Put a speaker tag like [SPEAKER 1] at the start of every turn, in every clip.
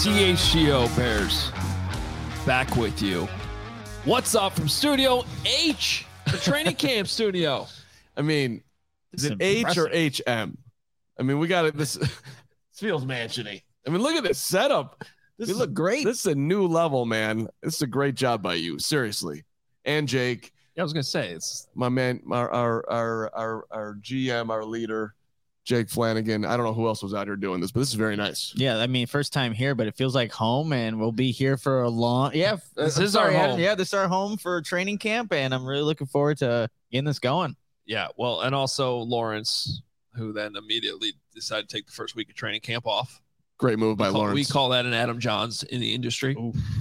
[SPEAKER 1] CHGO Bears back with you. What's up from Studio H, the training camp studio?
[SPEAKER 2] I mean, is it H or HM? I mean, we got it. This feels mansiony. I mean, look at this setup. This look great. This is a new level, man. This is a great job by you, seriously. And Jake.
[SPEAKER 1] Yeah, I was gonna say it's
[SPEAKER 2] my man, our GM, our leader, Jake Flanagan. I don't know who else was out here doing this, but this is very nice.
[SPEAKER 3] Yeah, I mean, first time here, but it feels like home, and we'll be here for a long. Yeah,
[SPEAKER 1] this is our home.
[SPEAKER 3] Yeah, this is our home for training camp, and I'm really looking forward to getting this going.
[SPEAKER 1] Yeah, well, and also Lawrence, who then immediately decided to take the first week of training camp off.
[SPEAKER 2] Great move by Lawrence.
[SPEAKER 1] We call that an Adam Johns in the industry.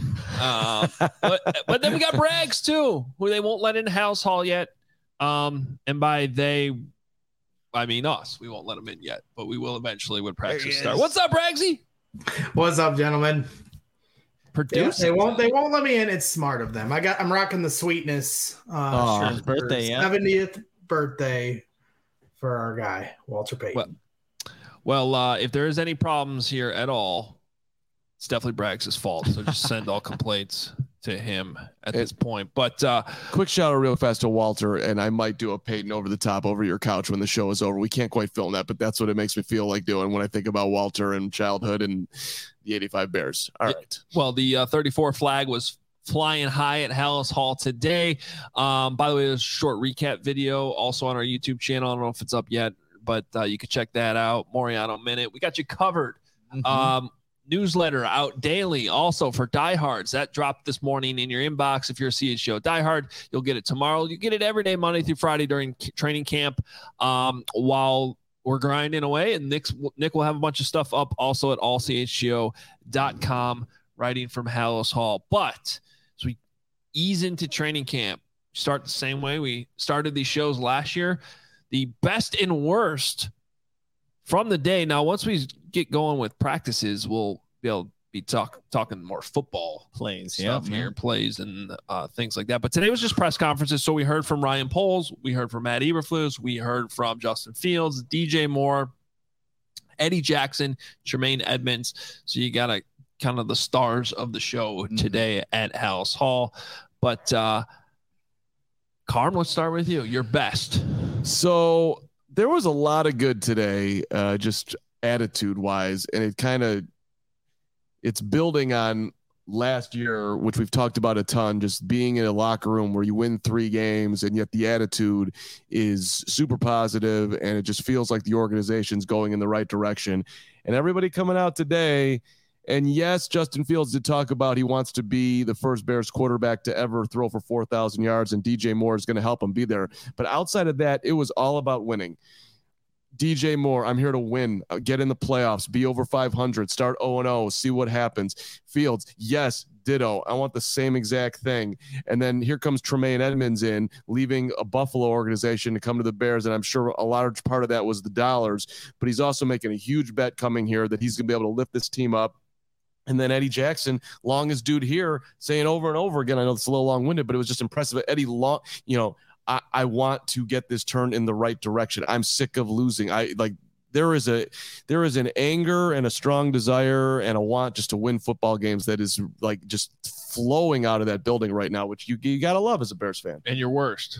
[SPEAKER 1] But then we got Braggs too, who they won't let in House Hall yet. And by they, I mean us. We won't let them in yet, but we will eventually when practice starts. What's up, Braggsy?
[SPEAKER 4] What's up, gentlemen?
[SPEAKER 1] Producing.
[SPEAKER 4] Yeah, they won't let me in. It's smart of them. I'm rocking the sweetness.
[SPEAKER 3] His birthday,
[SPEAKER 4] 70th birthday for our guy Walter Payton.
[SPEAKER 1] Well, if there is any problems here at all, it's definitely Braggs' fault. So just send all complaints to him at this point. But
[SPEAKER 2] quick shout out real fast to Walter, and I might do a Peyton over the top over your couch when the show is over. We can't quite film that, but that's what it makes me feel like doing when I think about Walter and childhood and the 85 Bears. All right.
[SPEAKER 1] Well, the 34 flag was flying high at Halas Hall today. By the way, there's a short recap video also on our YouTube channel. I don't know if it's up yet, but you can check that out. Moriano Minute. We got you covered. Newsletter out daily also for diehards. That dropped this morning in your inbox. If you're a CHGO diehard, you'll get it tomorrow. You get it every day, Monday through Friday during training camp while we're grinding away. And Nick will have a bunch of stuff up also at allchgo.com, writing from Halas Hall. But as we ease into training camp, start the same way we started these shows last year, the best and worst from the day. Now, once we get going with practices, we'll be able to be talking more football
[SPEAKER 3] plays
[SPEAKER 1] stuff here, plays and things like that. But today was just press conferences. So we heard from Ryan Poles, we heard from Matt Eberflus, we heard from Justin Fields, DJ Moore, Eddie Jackson, Tremaine Edmonds. So you got kind of the stars of the show today at Halas Hall. But Carm, let's start with you. Your best.
[SPEAKER 2] So there was a lot of good today, just attitude wise, and it's building on last year, which we've talked about a ton, just being in a locker room where you win 3 games and yet the attitude is super positive and it just feels like the organization's going in the right direction. And everybody coming out today, and yes, Justin Fields did talk about he wants to be the first Bears quarterback to ever throw for 4,000 yards, and DJ Moore is going to help him be there. But outside of that, it was all about winning. DJ Moore, I'm here to win, get in the playoffs, be over 500, start 0-0, see what happens. Fields, yes, ditto. I want the same exact thing. And then here comes Tremaine Edmonds in, leaving a Buffalo organization to come to the Bears, and I'm sure a large part of that was the dollars, but he's also making a huge bet coming here that he's going to be able to lift this team up. And then Eddie Jackson, longest dude here, saying over and over again, I know it's a little long-winded, but it was just impressive. Eddie, I want to get this turned in the right direction. I'm sick of losing. There is an anger and a strong desire and a want just to win football games that is like just flowing out of that building right now, which you got to love as a Bears fan.
[SPEAKER 1] And your worst.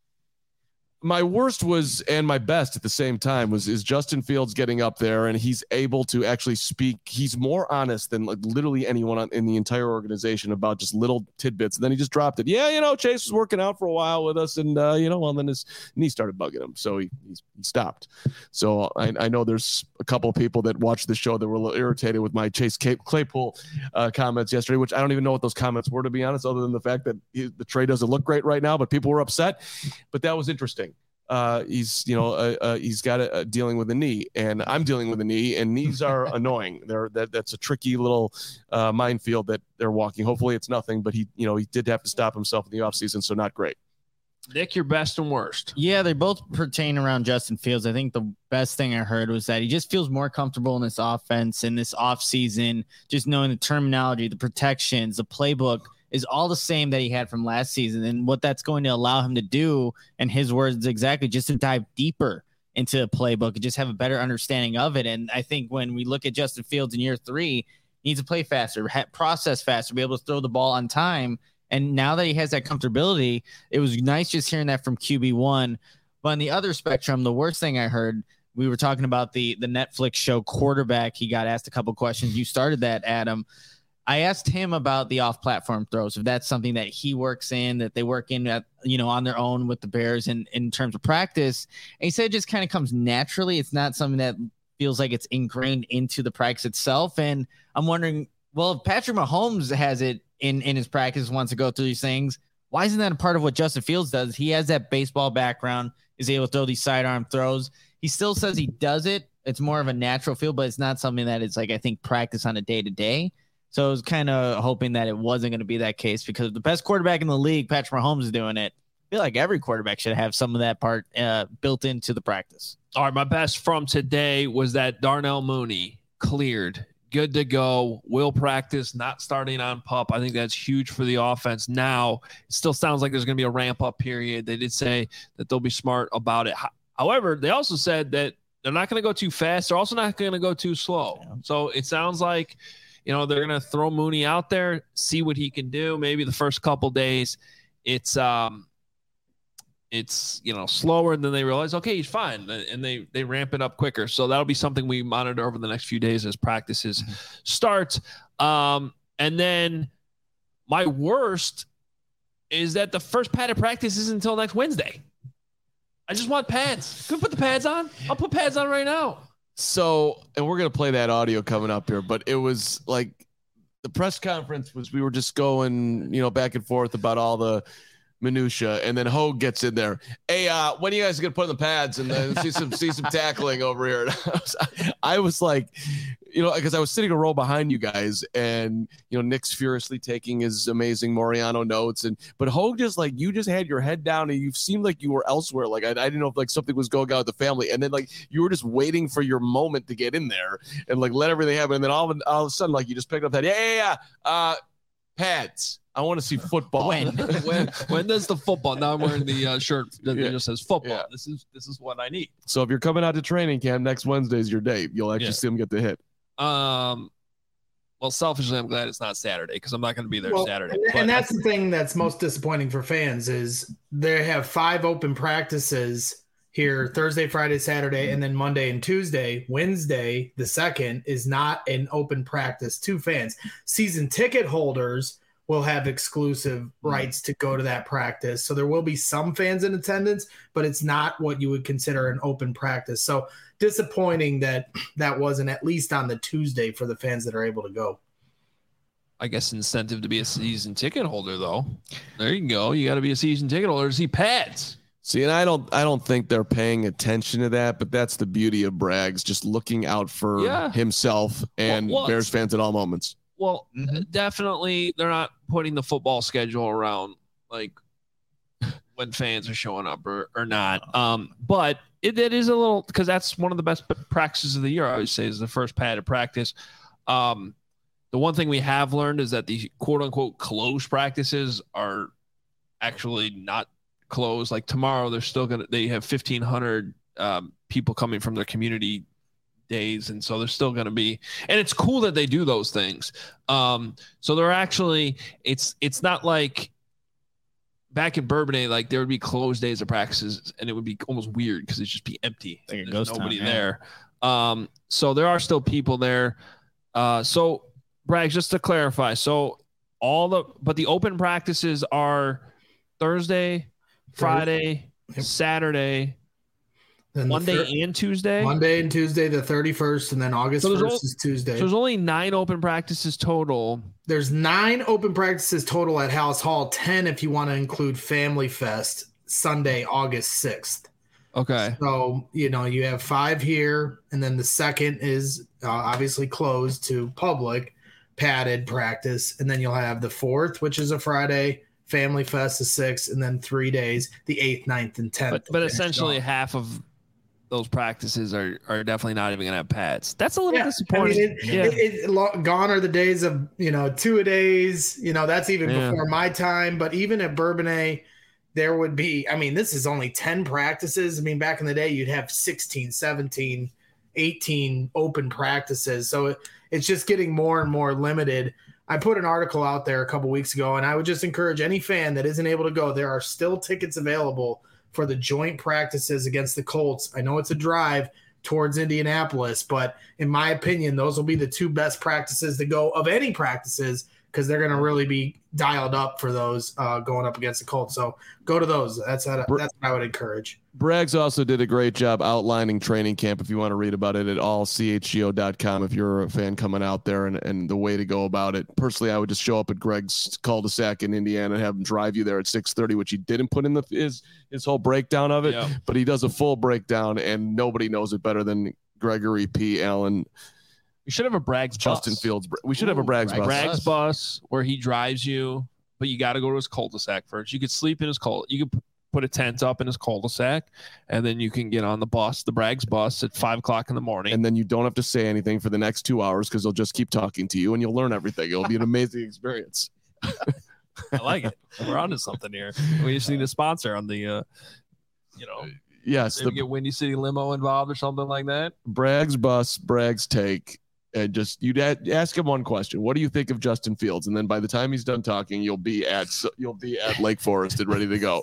[SPEAKER 2] My worst was, and my best at the same time, is Justin Fields getting up there and he's able to actually speak. He's more honest than like literally anyone in the entire organization about just little tidbits. And then he just dropped it. Yeah, Chase was working out for a while with us, and then his knee started bugging him, so he stopped. So I know there's a couple of people that watched the show that were a little irritated with my Chase Claypool comments yesterday, which I don't even know what those comments were, to be honest, other than the fact that the trade doesn't look great right now, but people were upset. But that was interesting. He's got dealing with a knee, and I'm dealing with a knee, and knees are annoying. That's a tricky little minefield that they're walking. Hopefully it's nothing, but he did have to stop himself in the offseason, so not great.
[SPEAKER 1] Nick, your best and worst.
[SPEAKER 3] Yeah, they both pertain around Justin Fields. I think the best thing I heard was that he just feels more comfortable in this offense in this offseason, just knowing the terminology, the protections, the playbook is all the same that he had from last season, and what that's going to allow him to do, in his words exactly, just to dive deeper into the playbook and just have a better understanding of it. And I think when we look at Justin Fields in year 3, He needs to play faster, process faster, be able to throw the ball on time. And now that he has that comfortability, it was nice just hearing that from QB1. But on the other spectrum, the worst thing I heard, we were talking about the Netflix show Quarterback. He got asked a couple questions. You started that, Adam. I asked him about the off-platform throws, if that's something that he works in, that they work in at, on their own with the Bears in terms of practice. And he said it just kind of comes naturally. It's not something that feels like it's ingrained into the practice itself. And I'm wondering, well, if Patrick Mahomes has it in his practice, wants to go through these things, why isn't that a part of what Justin Fields does? He has that baseball background, is able to throw these sidearm throws. He still says he does it. It's more of a natural feel, but it's not something that is like, I think, practice on a day-to-day. So I was kind of hoping that it wasn't going to be that case, because the best quarterback in the league, Patrick Mahomes, is doing it. I feel like every quarterback should have some of that part built into the practice.
[SPEAKER 1] All right, my best from today was that Darnell Mooney cleared, good to go, will practice, not starting on PUP. I think that's huge for the offense. Now, it still sounds like there's going to be a ramp-up period. They did say that they'll be smart about it. However, they also said that they're not going to go too fast. They're also not going to go too slow. So it sounds like they're going to throw Mooney out there, see what he can do. Maybe the first couple days it's slower, and then they realize, okay, he's fine, and they ramp it up quicker. So that'll be something we monitor over the next few days as practices start. And then my worst is that the first padded practice isn't until next Wednesday. I just want pads. Can we put the pads on? I'll put pads on right now.
[SPEAKER 2] So, and we're going to play that audio coming up here, but it was like the press conference we were just going, back and forth about all the minutia, and then Hogue gets in there. Hey, when are you guys going to put in the pads and then see some tackling over here? And I was like, because I was sitting a row behind you guys, and Nick's furiously taking his amazing Moriano notes, but Hogue just you just had your head down, and you seemed like you were elsewhere. Like I didn't know if something was going on with the family, and then you were just waiting for your moment to get in there and let everything happen, and then all of a sudden you just picked up that pads. I want to see football.
[SPEAKER 1] When does the football? Now I'm wearing the shirt that just says football. Yeah. This is what I need.
[SPEAKER 2] So if you're coming out to training camp, next Wednesday is your day. You'll actually see them get the hit.
[SPEAKER 1] Well, selfishly, I'm glad it's not Saturday, because I'm not going to be there Saturday.
[SPEAKER 4] And that's the thing that's most disappointing for fans is they have 5 open practices here: Thursday, Friday, Saturday, and then Monday and Tuesday. Wednesday, the 2nd, is not an open practice to fans. Season ticket holders will have exclusive rights to go to that practice. So there will be some fans in attendance, but it's not what you would consider an open practice. So disappointing that wasn't at least on the Tuesday for the fans that are able to go.
[SPEAKER 1] I guess incentive to be a season ticket holder, though. There you go. You got to be a season ticket holder to see pads.
[SPEAKER 2] See, and I don't think they're paying attention to that, but that's the beauty of Braggs, just looking out for himself and Bears fans at all moments.
[SPEAKER 1] Well, definitely they're not putting the football schedule around when fans are showing up or not. But it is a little, because that's one of the best practices of the year, I always say, is the first padded practice. The one thing we have learned is that the quote unquote closed practices are actually not closed. Like tomorrow, they have 1,500 people coming from their community days, and so they're still going to be, and it's cool that they do those things. So they're actually, it's not like back in Bourbonnais, there would be closed days of practices, and it would be almost weird because it'd just be empty. There's nobody there. So there are still people there. So Bragg, just to clarify, so the open practices are Thursday, Friday, Saturday, then Monday and Tuesday?
[SPEAKER 4] Monday and Tuesday, the 31st, and then August 1st is Tuesday.
[SPEAKER 1] So there's only 9 open practices total.
[SPEAKER 4] There's 9 open practices total at House Hall, 10 if you want to include Family Fest, Sunday, August 6th.
[SPEAKER 1] Okay.
[SPEAKER 4] So, you have 5 here, and then the 2nd is obviously closed to public, padded practice, and then you'll have the 4th, which is a Friday, Family Fest, the 6th, and then 3 days, the 8th, 9th, and 10th.
[SPEAKER 1] But essentially half of those practices are definitely not even going to have pads. That's a little disappointing.
[SPEAKER 4] Gone are the days of, 2-a-days, that's even before my time. But even at Bourbonnais, there would be, this is only 10 practices. Back in the day, you'd have 16, 17 18 open practices. So it's just getting more and more limited. I put an article out there a couple weeks ago, and I would just encourage any fan that isn't able to go. There are still tickets available for the joint practices against the Colts. I know it's a drive towards Indianapolis, but in my opinion, those will be the two best practices to go of any practices, because they're going to really be dialed up for those going up against the Colts. So go to those. That's what I would encourage.
[SPEAKER 2] Braggs also did a great job outlining training camp. If you want to read about it at allchgo.com, if you're a fan coming out there, and the way to go about it. Personally, I would just show up at Greg's cul-de-sac in Indiana and have him drive you there at 6:30, which he didn't put in his whole breakdown of it, but he does a full breakdown, and nobody knows it better than Gregory P. Allen.
[SPEAKER 1] We should have a Braggs
[SPEAKER 2] Justin
[SPEAKER 1] bus.
[SPEAKER 2] Fields. We should have a Braggs bus.
[SPEAKER 1] Braggs bus where he drives you, but you got to go to his cul-de-sac first. You could sleep in his you could put a tent up in his cul-de-sac, and then you can get on the bus, the Braggs bus, at 5 o'clock in the morning.
[SPEAKER 2] And then you don't have to say anything for the next 2 hours, because they'll just keep talking to you, and you'll learn everything. It'll be an amazing experience.
[SPEAKER 1] I like it. We're onto something here. We just need a sponsor on the,
[SPEAKER 2] yes,
[SPEAKER 1] get Windy City Limo involved or something like that.
[SPEAKER 2] Braggs bus, Braggs take. And just you'd ask him one question: what do you think of Justin Fields? And then by the time he's done talking, you'll be at Lake Forest and ready to go.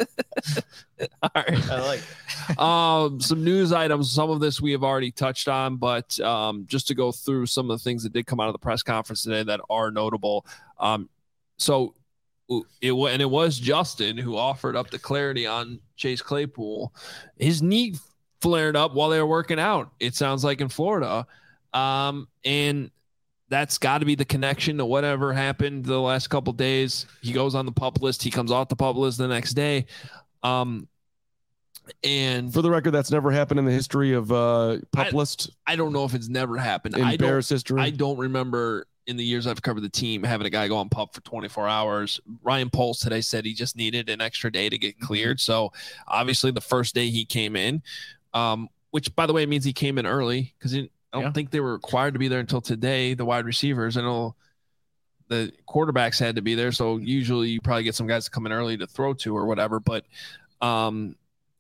[SPEAKER 1] All right, I like it. Some news items. Some of this we have already touched on, but just to go through some of the things that did come out of the press conference today that are notable. So it was Justin who offered up the clarity on Chase Claypool. His knee flared up while they were working out, it sounds like, in Florida. And that's got to be the connection to whatever happened the last couple of days. He goes on the PUP list. He comes off the PUP list the next day. And
[SPEAKER 2] for the record, that's never happened in the history of PUP list.
[SPEAKER 1] I don't know if it's never happened
[SPEAKER 2] in Bears history.
[SPEAKER 1] I don't remember in the years I've covered the team having a guy go on PUP for 24 hours. Ryan Poles today said he just needed an extra day to get cleared. So obviously the first day he came in, which by the way means he came in early, because I don't think they were required to be there until today, the wide receivers. I know the quarterbacks had to be there, so usually you probably get some guys to come in early to throw to or whatever. But so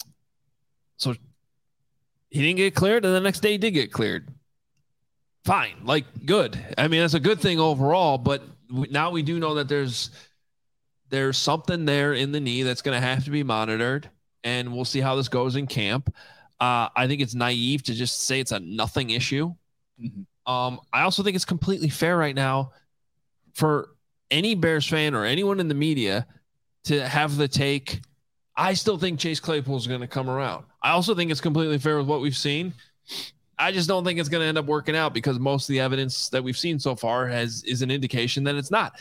[SPEAKER 1] he didn't get cleared, and the next day he did get cleared. Fine, like, good. I mean, that's a good thing overall, but now we do know that there's something there in the knee that's going to have to be monitored, and we'll see how this goes in camp. I think it's naive to just say it's a nothing issue. Mm-hmm. I also think it's completely fair right now for any Bears fan or anyone in the media to have the take, I still think Chase Claypool is going to come around. I also think it's completely fair with what we've seen. I just don't think it's going to end up working out, because most of the evidence that we've seen so far is an indication that it's not.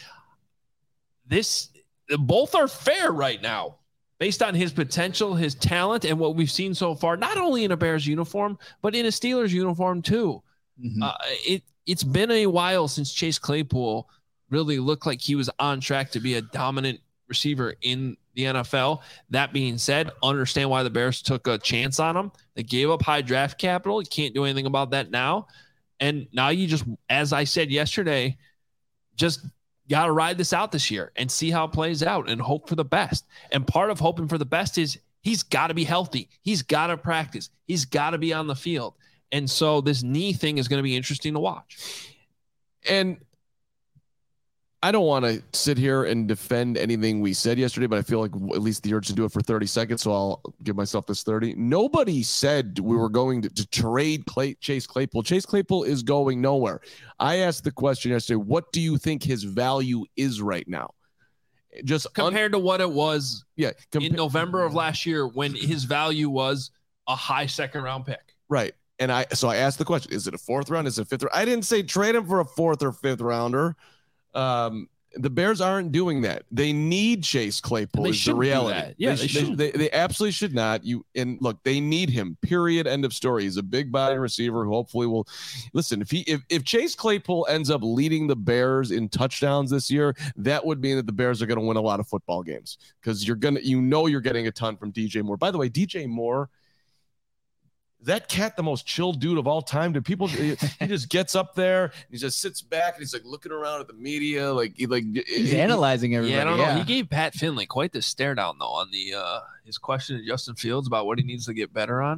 [SPEAKER 1] Both are fair right now, based on his potential, his talent, and what we've seen so far, not only in a Bears uniform, but in a Steelers uniform too. Mm-hmm. It's been a while since Chase Claypool really looked like he was on track to be a dominant receiver in the NFL. That being said, understand why the Bears took a chance on him. They gave up high draft capital. You can't do anything about that now. And now you just, as I said yesterday, just got to ride this out this year and see how it plays out and hope for the best. And part of hoping for the best is he's got to be healthy. He's got to practice. He's got to be on the field. And so this knee thing is going to be interesting to watch.
[SPEAKER 2] And I don't want to sit here and defend anything we said yesterday, but I feel like at least the urge to do it for 30 seconds. So I'll give myself this 30. Nobody said we were going to trade Chase Claypool. Chase Claypool is going nowhere. I asked the question yesterday, what do you think his value is right now? Just
[SPEAKER 1] compared to what it was in November of last year, when his value was a high second round pick.
[SPEAKER 2] Right. And I asked the question, is it a fourth round? Is it a fifth round? I didn't say trade him for a fourth or fifth rounder. The Bears aren't doing that. They need Chase Claypool. Is the reality.
[SPEAKER 1] Yeah,
[SPEAKER 2] they absolutely should not. Look, they need him. Period. End of story. He's a big body receiver who hopefully will listen. If Chase Claypool ends up leading the Bears in touchdowns this year, that would mean that the Bears are going to win a lot of football games, because you're getting a ton from DJ Moore. By the way, DJ Moore, that cat, the most chill dude of all time. Do people? He just gets up there, and he just sits back, and he's like looking around at the media,
[SPEAKER 3] he's analyzing everybody.
[SPEAKER 1] Yeah, I don't know. He gave Pat Finley quite the stare down though on the his question to Justin Fields about what he needs to get better on.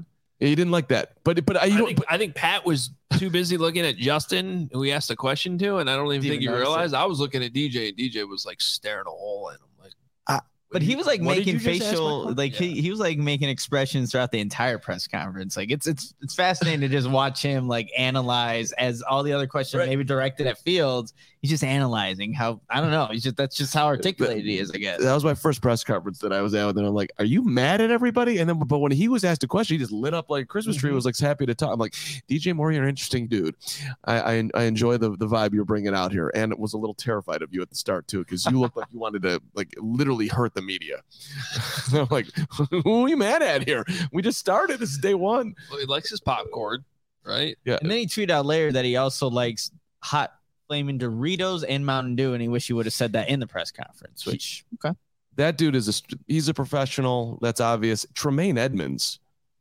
[SPEAKER 2] He didn't like that. But
[SPEAKER 1] I think Pat was too busy looking at Justin, who he asked a question to, and I don't even think he realized. I was looking at DJ, and DJ was like staring a hole at him. Like,
[SPEAKER 3] but he was like making facial, like he was like making expressions throughout the entire press conference. Like it's fascinating to just watch him like analyze as all the other questions maybe directed at Fields. He's just analyzing how, I don't know. That's just how articulated he is, I guess.
[SPEAKER 2] That was my first press conference that I was at, and I'm like, "Are you mad at everybody?" And then, but when he was asked a question, he just lit up like a Christmas tree. Was like happy to talk. I'm like, DJ Moore, you're an interesting dude. I enjoy the vibe you're bringing out here, and it was a little terrified of you at the start too, because you looked like you wanted to like literally hurt the media. I'm like, who are we mad at here? We just started. This is day one.
[SPEAKER 1] Well, he likes his popcorn, right?
[SPEAKER 2] Yeah.
[SPEAKER 3] And then he tweeted out later that he also likes hot flaming Doritos and Mountain Dew, and he wish he would have said that in the press conference. Which
[SPEAKER 2] that dude he's a professional. That's obvious. Tremaine Edmonds.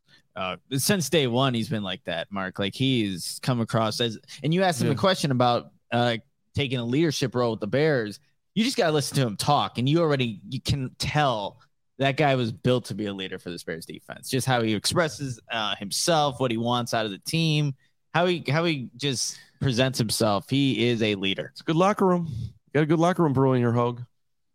[SPEAKER 3] Since day one, he's been like that, Mark. Like he's come across as, and you asked him a question about taking a leadership role with the Bears. You just got to listen to him talk, and you can tell that guy was built to be a leader for this Bears defense. Just how he expresses himself, what he wants out of the team, how he just presents himself. He is a leader.
[SPEAKER 2] It's a good locker room. You got a good locker room brewing your Hogue.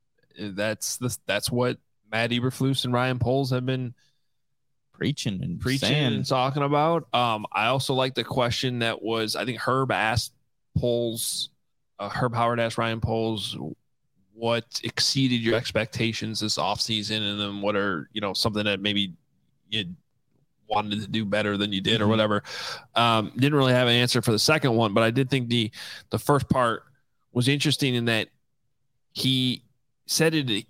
[SPEAKER 1] That's what Matt Eberflus and Ryan Poles have been
[SPEAKER 3] preaching
[SPEAKER 1] and talking about. I also like the question that was, I think Herb asked Poles, Herb Howard asked Ryan Poles, what exceeded your expectations this offseason, and then what are, something that maybe you wanted to do better than you did or whatever. Didn't really have an answer for the second one, but I did think the first part was interesting in that he said it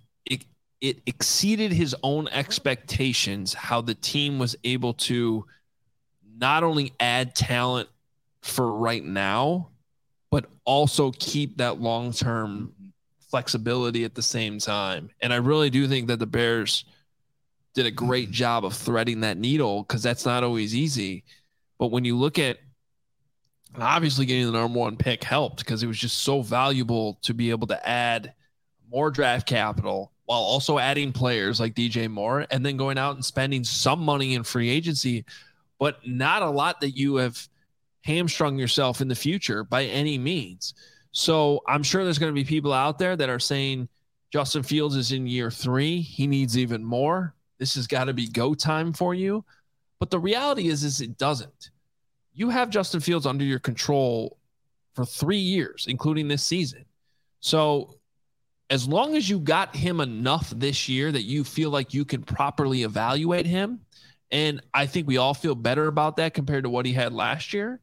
[SPEAKER 1] exceeded his own expectations, how the team was able to not only add talent for right now, but also keep that long-term flexibility at the same time. And I really do think that the Bears did a great job of threading that needle, because that's not always easy. But when you look at, obviously getting the number one pick helped, because it was just so valuable to be able to add more draft capital while also adding players like DJ Moore, and then going out and spending some money in free agency, but not a lot that you have hamstrung yourself in the future by any means. So I'm sure there's going to be people out there that are saying Justin Fields is in year 3. He needs even more. This has got to be go time for you. But the reality is it doesn't. You have Justin Fields under your control for 3 years, including this season. So as long as you got him enough this year that you feel like you can properly evaluate him, and I think we all feel better about that compared to what he had last year,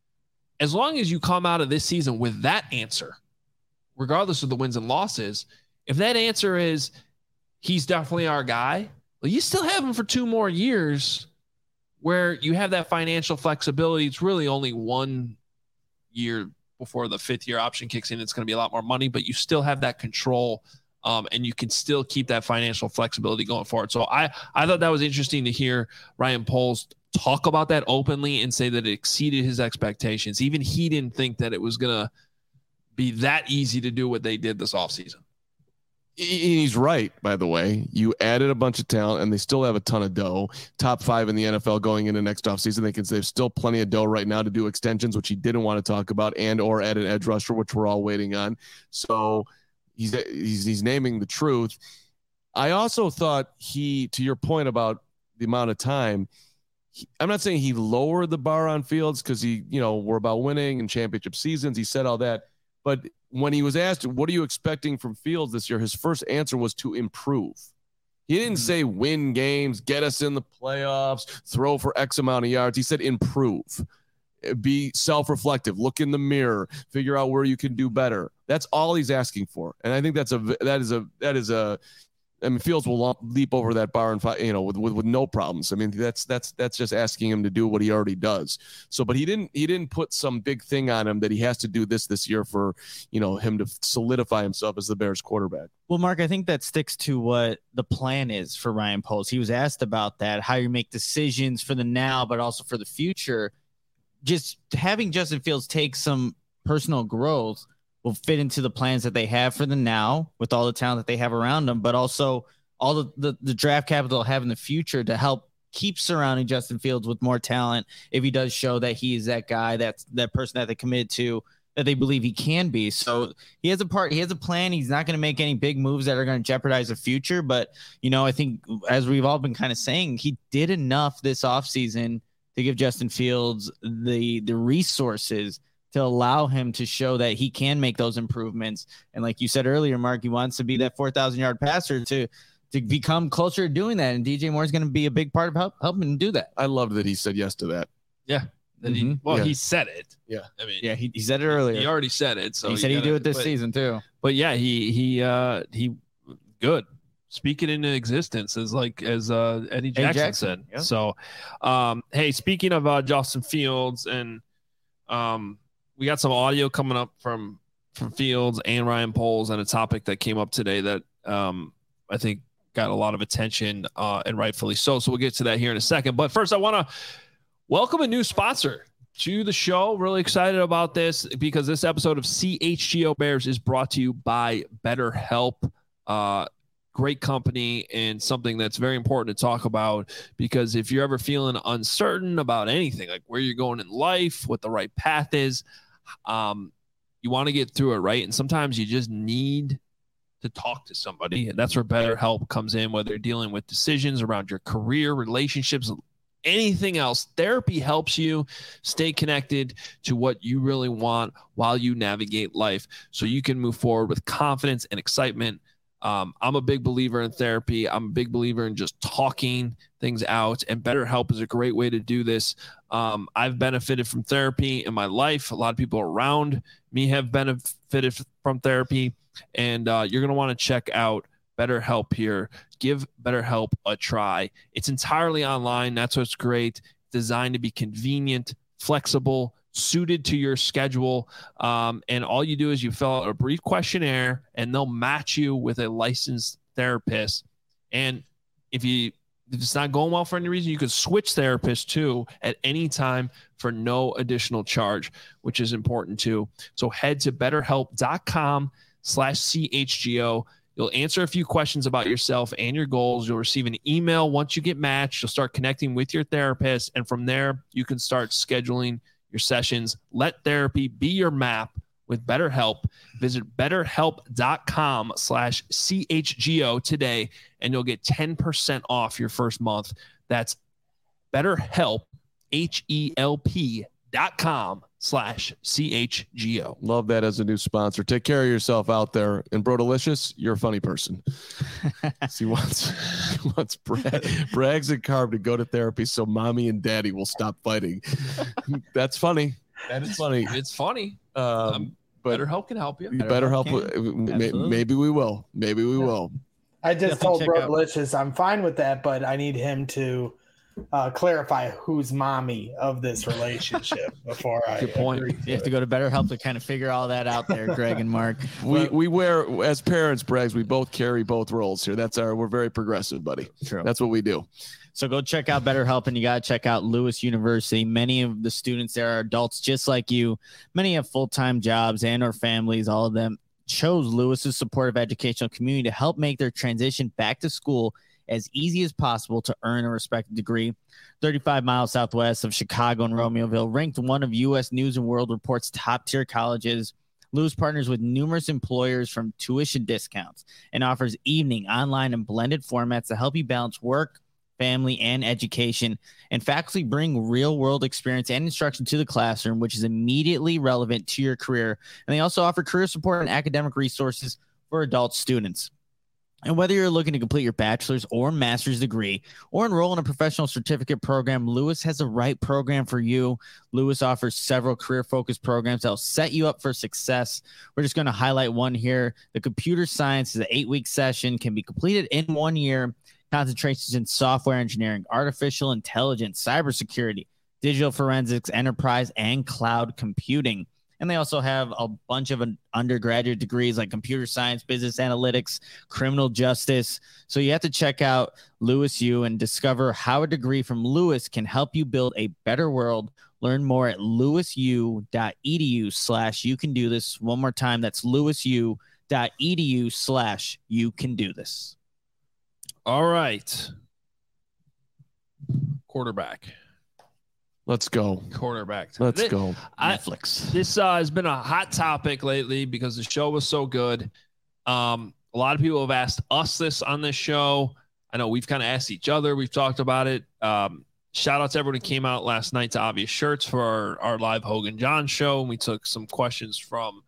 [SPEAKER 1] as long as you come out of this season with that answer, regardless of the wins and losses, if that answer is he's definitely our guy, well, you still have him for 2 more years where you have that financial flexibility. It's really only 1 year before the 5th year option kicks in. It's going to be a lot more money, but you still have that control, and you can still keep that financial flexibility going forward. So I thought that was interesting to hear Ryan Poles talk about that openly and say that it exceeded his expectations. Even he didn't think that it was going to be that easy to do what they did this offseason.
[SPEAKER 2] He's right, by the way. You added a bunch of talent, and they still have a ton of dough. Top 5 in the NFL going into next offseason. There's still plenty of dough right now to do extensions, which he didn't want to talk about, and or add an edge rusher, which we're all waiting on. So he's naming the truth. I also thought to your point about the amount of time, I'm not saying he lowered the bar on Fields, because we're about winning and championship seasons. He said all that. But when he was asked, what are you expecting from Fields this year? His first answer was to improve. He didn't say win games, get us in the playoffs, throw for X amount of yards. He said improve, be self-reflective, look in the mirror, figure out where you can do better. That's all he's asking for. And I think Fields will leap over that bar and with no problems. I mean, that's just asking him to do what he already does. So, but he didn't put some big thing on him that he has to do this year for, him to solidify himself as the Bears quarterback.
[SPEAKER 3] Well, Mark, I think that sticks to what the plan is for Ryan Poles. He was asked about that, how you make decisions for the now, but also for the future. Just having Justin Fields take some personal growth will fit into the plans that they have for the now with all the talent that they have around them, but also all the draft capital they'll have in the future to help keep surrounding Justin Fields with more talent if he does show that he is that guy, that's that person that they committed to, that they believe he can be. So he has a plan. He's not going to make any big moves that are going to jeopardize the future. But, I think as we've all been kind of saying, he did enough this offseason to give Justin Fields the resources to allow him to show that he can make those improvements. And like you said earlier, Mark, he wants to be that 4,000-yard passer to become closer to doing that. And DJ Moore is going to be a big part of helping him do that.
[SPEAKER 2] I loved that he said yes to that.
[SPEAKER 1] Yeah. He said it.
[SPEAKER 2] Yeah.
[SPEAKER 1] I mean,
[SPEAKER 3] yeah, he said it earlier.
[SPEAKER 1] He already said it. So
[SPEAKER 3] he said he'd do it this season too.
[SPEAKER 1] But yeah, he good. Speak it into existence as Eddie Jackson said.
[SPEAKER 3] Yeah.
[SPEAKER 1] So, hey, speaking of Justin Fields, and we got some audio coming up from Fields and Ryan Poles on a topic that came up today that I think got a lot of attention and rightfully so. So we'll get to that here in a second. But first, I want to welcome a new sponsor to the show. Really excited about this because this episode of CHGO Bears is brought to you by BetterHelp. Great company and something that's very important to talk about, because if you're ever feeling uncertain about anything, like where you're going in life, what the right path is, you want to get through it, right? And sometimes you just need to talk to somebody, and that's where BetterHelp comes in, whether you're dealing with decisions around your career, relationships, anything else. Therapy helps you stay connected to what you really want while you navigate life so you can move forward with confidence and excitement. I'm a big believer in therapy. I'm a big believer in just talking things out, and BetterHelp is a great way to do this. I've benefited from therapy in my life. A lot of people around me have benefited from therapy, and you're going to want to check out BetterHelp here. Give BetterHelp a try. It's entirely online. That's what's great. Designed to be convenient, flexible, suited to your schedule. And all you do is you fill out a brief questionnaire, and they'll match you with a licensed therapist. And if it's not going well for any reason, you can switch therapists too at any time for no additional charge, which is important too. So head to betterhelp.com/CHGO. You'll answer a few questions about yourself and your goals. You'll receive an email once you get matched. You'll start connecting with your therapist, and from there, you can start scheduling your sessions. Let therapy be your map with BetterHelp. Visit betterhelp.com/CHGO today, and you'll get 10% off your first month. That's BetterHelp, HELP.com/CHGO.
[SPEAKER 2] Love that as a new sponsor. Take care of yourself out there. And Bro Delicious, you're a funny person. he wants Brags and Carb to go to therapy so mommy and daddy will stop fighting. That's funny. That is funny.
[SPEAKER 1] It's funny.
[SPEAKER 2] But
[SPEAKER 1] BetterHelp can help you.
[SPEAKER 2] BetterHelp. Maybe we will. Maybe we will.
[SPEAKER 4] I just told Bro Delicious I'm fine with that, but I need him to clarify who's mommy of this relationship before I
[SPEAKER 1] Good point.
[SPEAKER 3] You have to go to BetterHelp to kind of figure all that out there, Greg and Mark.
[SPEAKER 2] We wear, as parents, Brags, we both carry both roles here. We're very progressive, buddy.
[SPEAKER 3] True.
[SPEAKER 2] That's what we do.
[SPEAKER 3] So go check out BetterHelp, and you got to check out Lewis University. Many of the students there are adults just like you. Many have full-time jobs and or families. All of them chose Lewis's supportive educational community to help make their transition back to school as easy as possible to earn a respected degree. 35 miles southwest of Chicago and Romeoville, ranked one of U.S. News and World Report's top-tier colleges, Lewis partners with numerous employers from tuition discounts and offers evening, online, and blended formats to help you balance work, family, and education. And faculty bring real-world experience and instruction to the classroom, which is immediately relevant to your career. And they also offer career support and academic resources for adult students. And whether you're looking to complete your bachelor's or master's degree or enroll in a professional certificate program, Lewis has the right program for you. Lewis offers several career-focused programs that will set you up for success. We're just going to highlight one here. The computer science is an 8-week session, can be completed in 1 year. Concentrations in software engineering, artificial intelligence, cybersecurity, digital forensics, enterprise, and cloud computing. And they also have a bunch of undergraduate degrees like computer science, business analytics, criminal justice. So you have to check out Lewis U and discover how a degree from Lewis can help you build a better world. Learn more at lewisu.edu/youcandothisss. One more time, that's lewisu.edu/youcandothisss.
[SPEAKER 1] All right. quarterback.
[SPEAKER 2] Let's go.
[SPEAKER 1] Quarterback.
[SPEAKER 2] Let's go.
[SPEAKER 3] Netflix.
[SPEAKER 1] This has been a hot topic lately because the show was so good. A lot of people have asked us this on this show. I know we've kind of asked each other. We've talked about it. Shout out to everyone who came out last night to Obvious Shirts for our live Hogan John show. And we took some questions from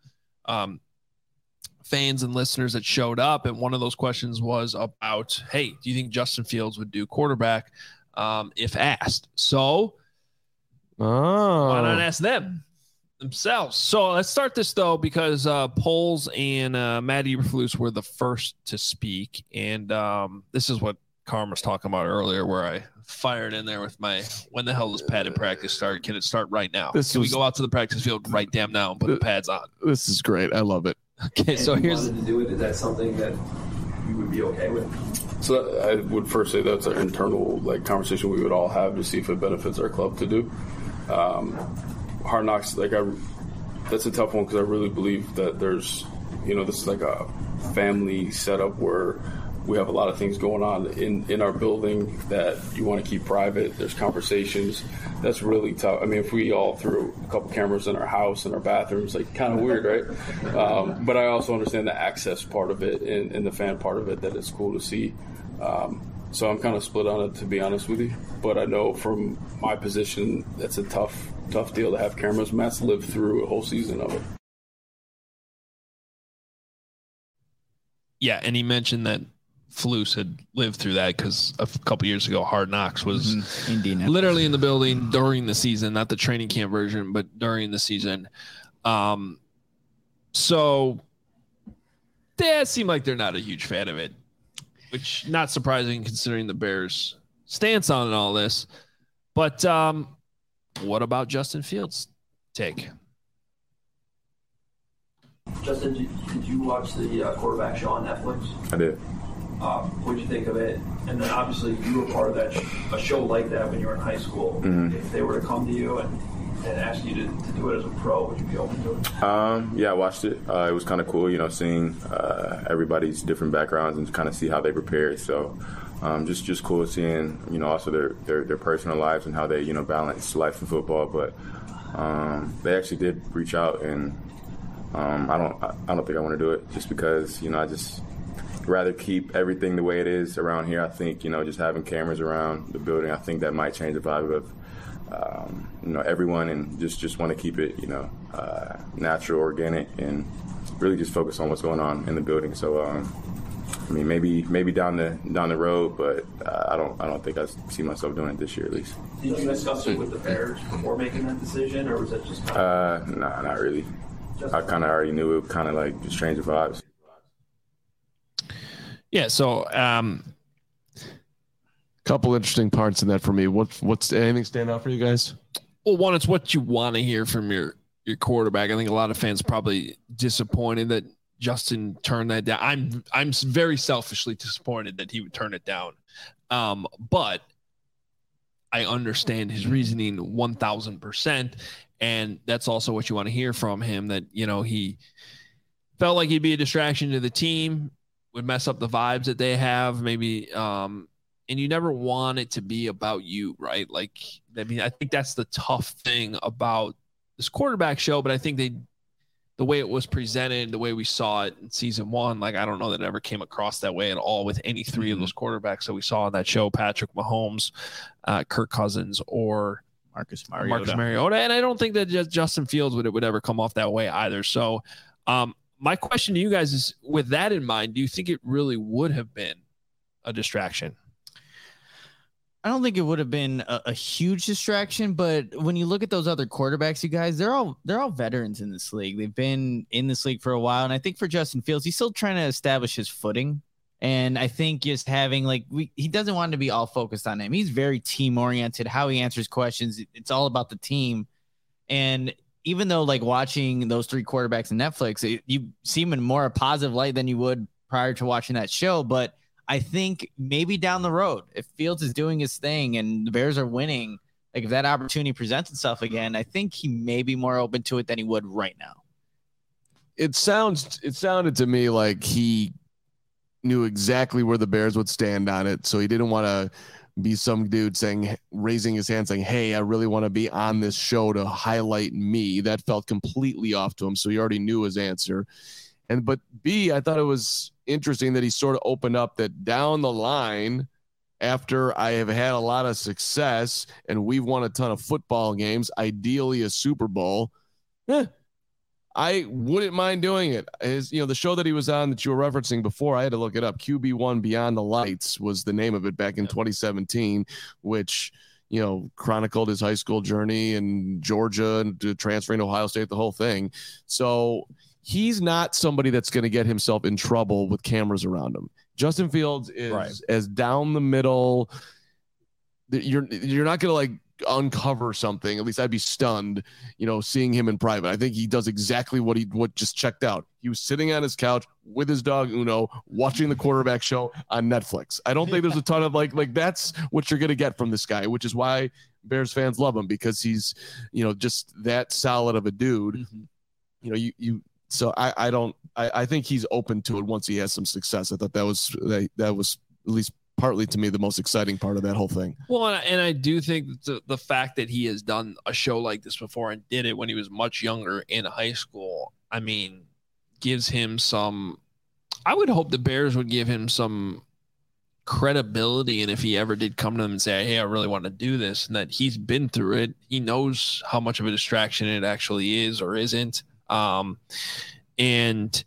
[SPEAKER 1] fans and listeners that showed up. And one of those questions was about, hey, do you think Justin Fields would do quarterback if asked? So why not ask them themselves? So let's start this, though, because Poles and Matt Eberflus were the first to speak. And this is what Carm was talking about earlier, where I fired in there with my, when the hell does padded practice start? Can it start right now? Can we go out to the practice field right damn now and put the pads on?
[SPEAKER 2] This is great. I love it.
[SPEAKER 1] Okay, so here's.
[SPEAKER 5] To do it, is that something that you would be okay with?
[SPEAKER 6] So I would first say that's an internal conversation we would all have to see if it benefits our club to do. Hard Knocks, that's a tough one because I really believe that there's, this is like a family setup where we have a lot of things going on in our building that you want to keep private. There's conversations. That's really tough. I mean, if we all threw a couple cameras in our house and our bathrooms, kind of weird, right? But I also understand the access part of it and the fan part of it, that it's cool to see. So I'm kind of split on it, to be honest with you. But I know from my position, that's a tough deal to have cameras. Matt's lived through a whole season of it.
[SPEAKER 1] Yeah, and he mentioned that Flus had lived through that because a couple years ago, Hard Knocks was literally in the building during the season, not the training camp version, but during the season. So they seem like they're not a huge fan of it, which not surprising considering the Bears' stance on all this. But what about Justin Fields' take?
[SPEAKER 5] Justin, did you watch the quarterback show on Netflix?
[SPEAKER 7] I did.
[SPEAKER 5] What did you think of it? And then obviously you were part of that a show like that when you were in high school. Mm-hmm. If they were to come to you and ask you to do it as a pro, would you be open to it?
[SPEAKER 7] Yeah, I watched it. It was kind of cool, seeing everybody's different backgrounds and kind of see how they prepared. So just cool seeing, also their personal lives and how they, balance life and football. But they actually did reach out, and I don't think I want to do it just because, I just rather keep everything the way it is around here. I think, just having cameras around the building, I think that might change the vibe of, everyone, and just want to keep it, natural, organic, and really just focus on what's going on in the building. So, maybe down the road, but I don't think I see myself doing it this year at least.
[SPEAKER 5] Did you discuss it with the Bears before making that decision, or was that just
[SPEAKER 7] nah, not really. I kind of already knew it, kind of just change the vibes.
[SPEAKER 1] Yeah, so
[SPEAKER 2] couple interesting parts in that for me. What's anything stand out for you guys?
[SPEAKER 1] Well, one, it's what you want to hear from your quarterback. I think a lot of fans probably disappointed that Justin turned that down. I'm very selfishly disappointed that he would turn it down. But I understand his reasoning 1,000%, and that's also what you want to hear from him, that he felt like he'd be a distraction to the team, would mess up the vibes that they have, maybe. And you never want it to be about you, right? I think that's the tough thing about this quarterback show, but I think the way it was presented, the way we saw it in season one, I don't know that it ever came across that way at all with any three of those quarterbacks that we saw on that show, Patrick Mahomes, Kirk Cousins, or Marcus Mariota. And I don't think that Justin Fields would ever come off that way either. So my question to you guys is, with that in mind, do you think it really would have been a distraction?
[SPEAKER 3] I don't think it would have been a huge distraction, but when you look at those other quarterbacks, you guys, they're all veterans in this league. They've been in this league for a while. And I think for Justin Fields, he's still trying to establish his footing. And I think just having he doesn't want to be all focused on him. He's very team oriented, how he answers questions. It's all about the team. And even though watching those three quarterbacks in Netflix, you see him in more a positive light than you would prior to watching that show. But I think maybe down the road, if Fields is doing his thing and the Bears are winning, if that opportunity presents itself again, I think he may be more open to it than he would right now.
[SPEAKER 2] It sounded to me like he knew exactly where the Bears would stand on it, so he didn't want to be some dude raising his hand saying, hey, I really want to be on this show to highlight me. That felt completely off to him. So he already knew his answer. But B, I thought it was interesting that he sort of opened up that down the line, after I have had a lot of success and we've won a ton of football games, ideally a Super Bowl, I wouldn't mind doing it. The show that he was on that you were referencing before, I had to look it up. QB1 Beyond the Lights was the name of it back in 2017, which, chronicled his high school journey in Georgia and transferring to Ohio State, the whole thing. So he's not somebody that's going to get himself in trouble with cameras around him. Justin Fields is as down the middle. You're not going to uncover something. At least I'd be stunned, seeing him in private. I think he does exactly what just checked out. He was sitting on his couch with his dog Uno, watching the quarterback show on Netflix. I don't think there's a ton of that's what you're going to get from this guy, which is why Bears fans love him, because he's, just that solid of a dude. Mm-hmm. So I think he's open to it once he has some success. I thought that was at least partly to me the most exciting part of that whole thing.
[SPEAKER 1] Well, and I do think the fact that he has done a show like this before and did it when he was much younger in high school, I mean, gives him some, I would hope the Bears would give him some credibility. And if he ever did come to them and say, hey, I really want to do this, and that he's been through it, he knows how much of a distraction it actually is or isn't. And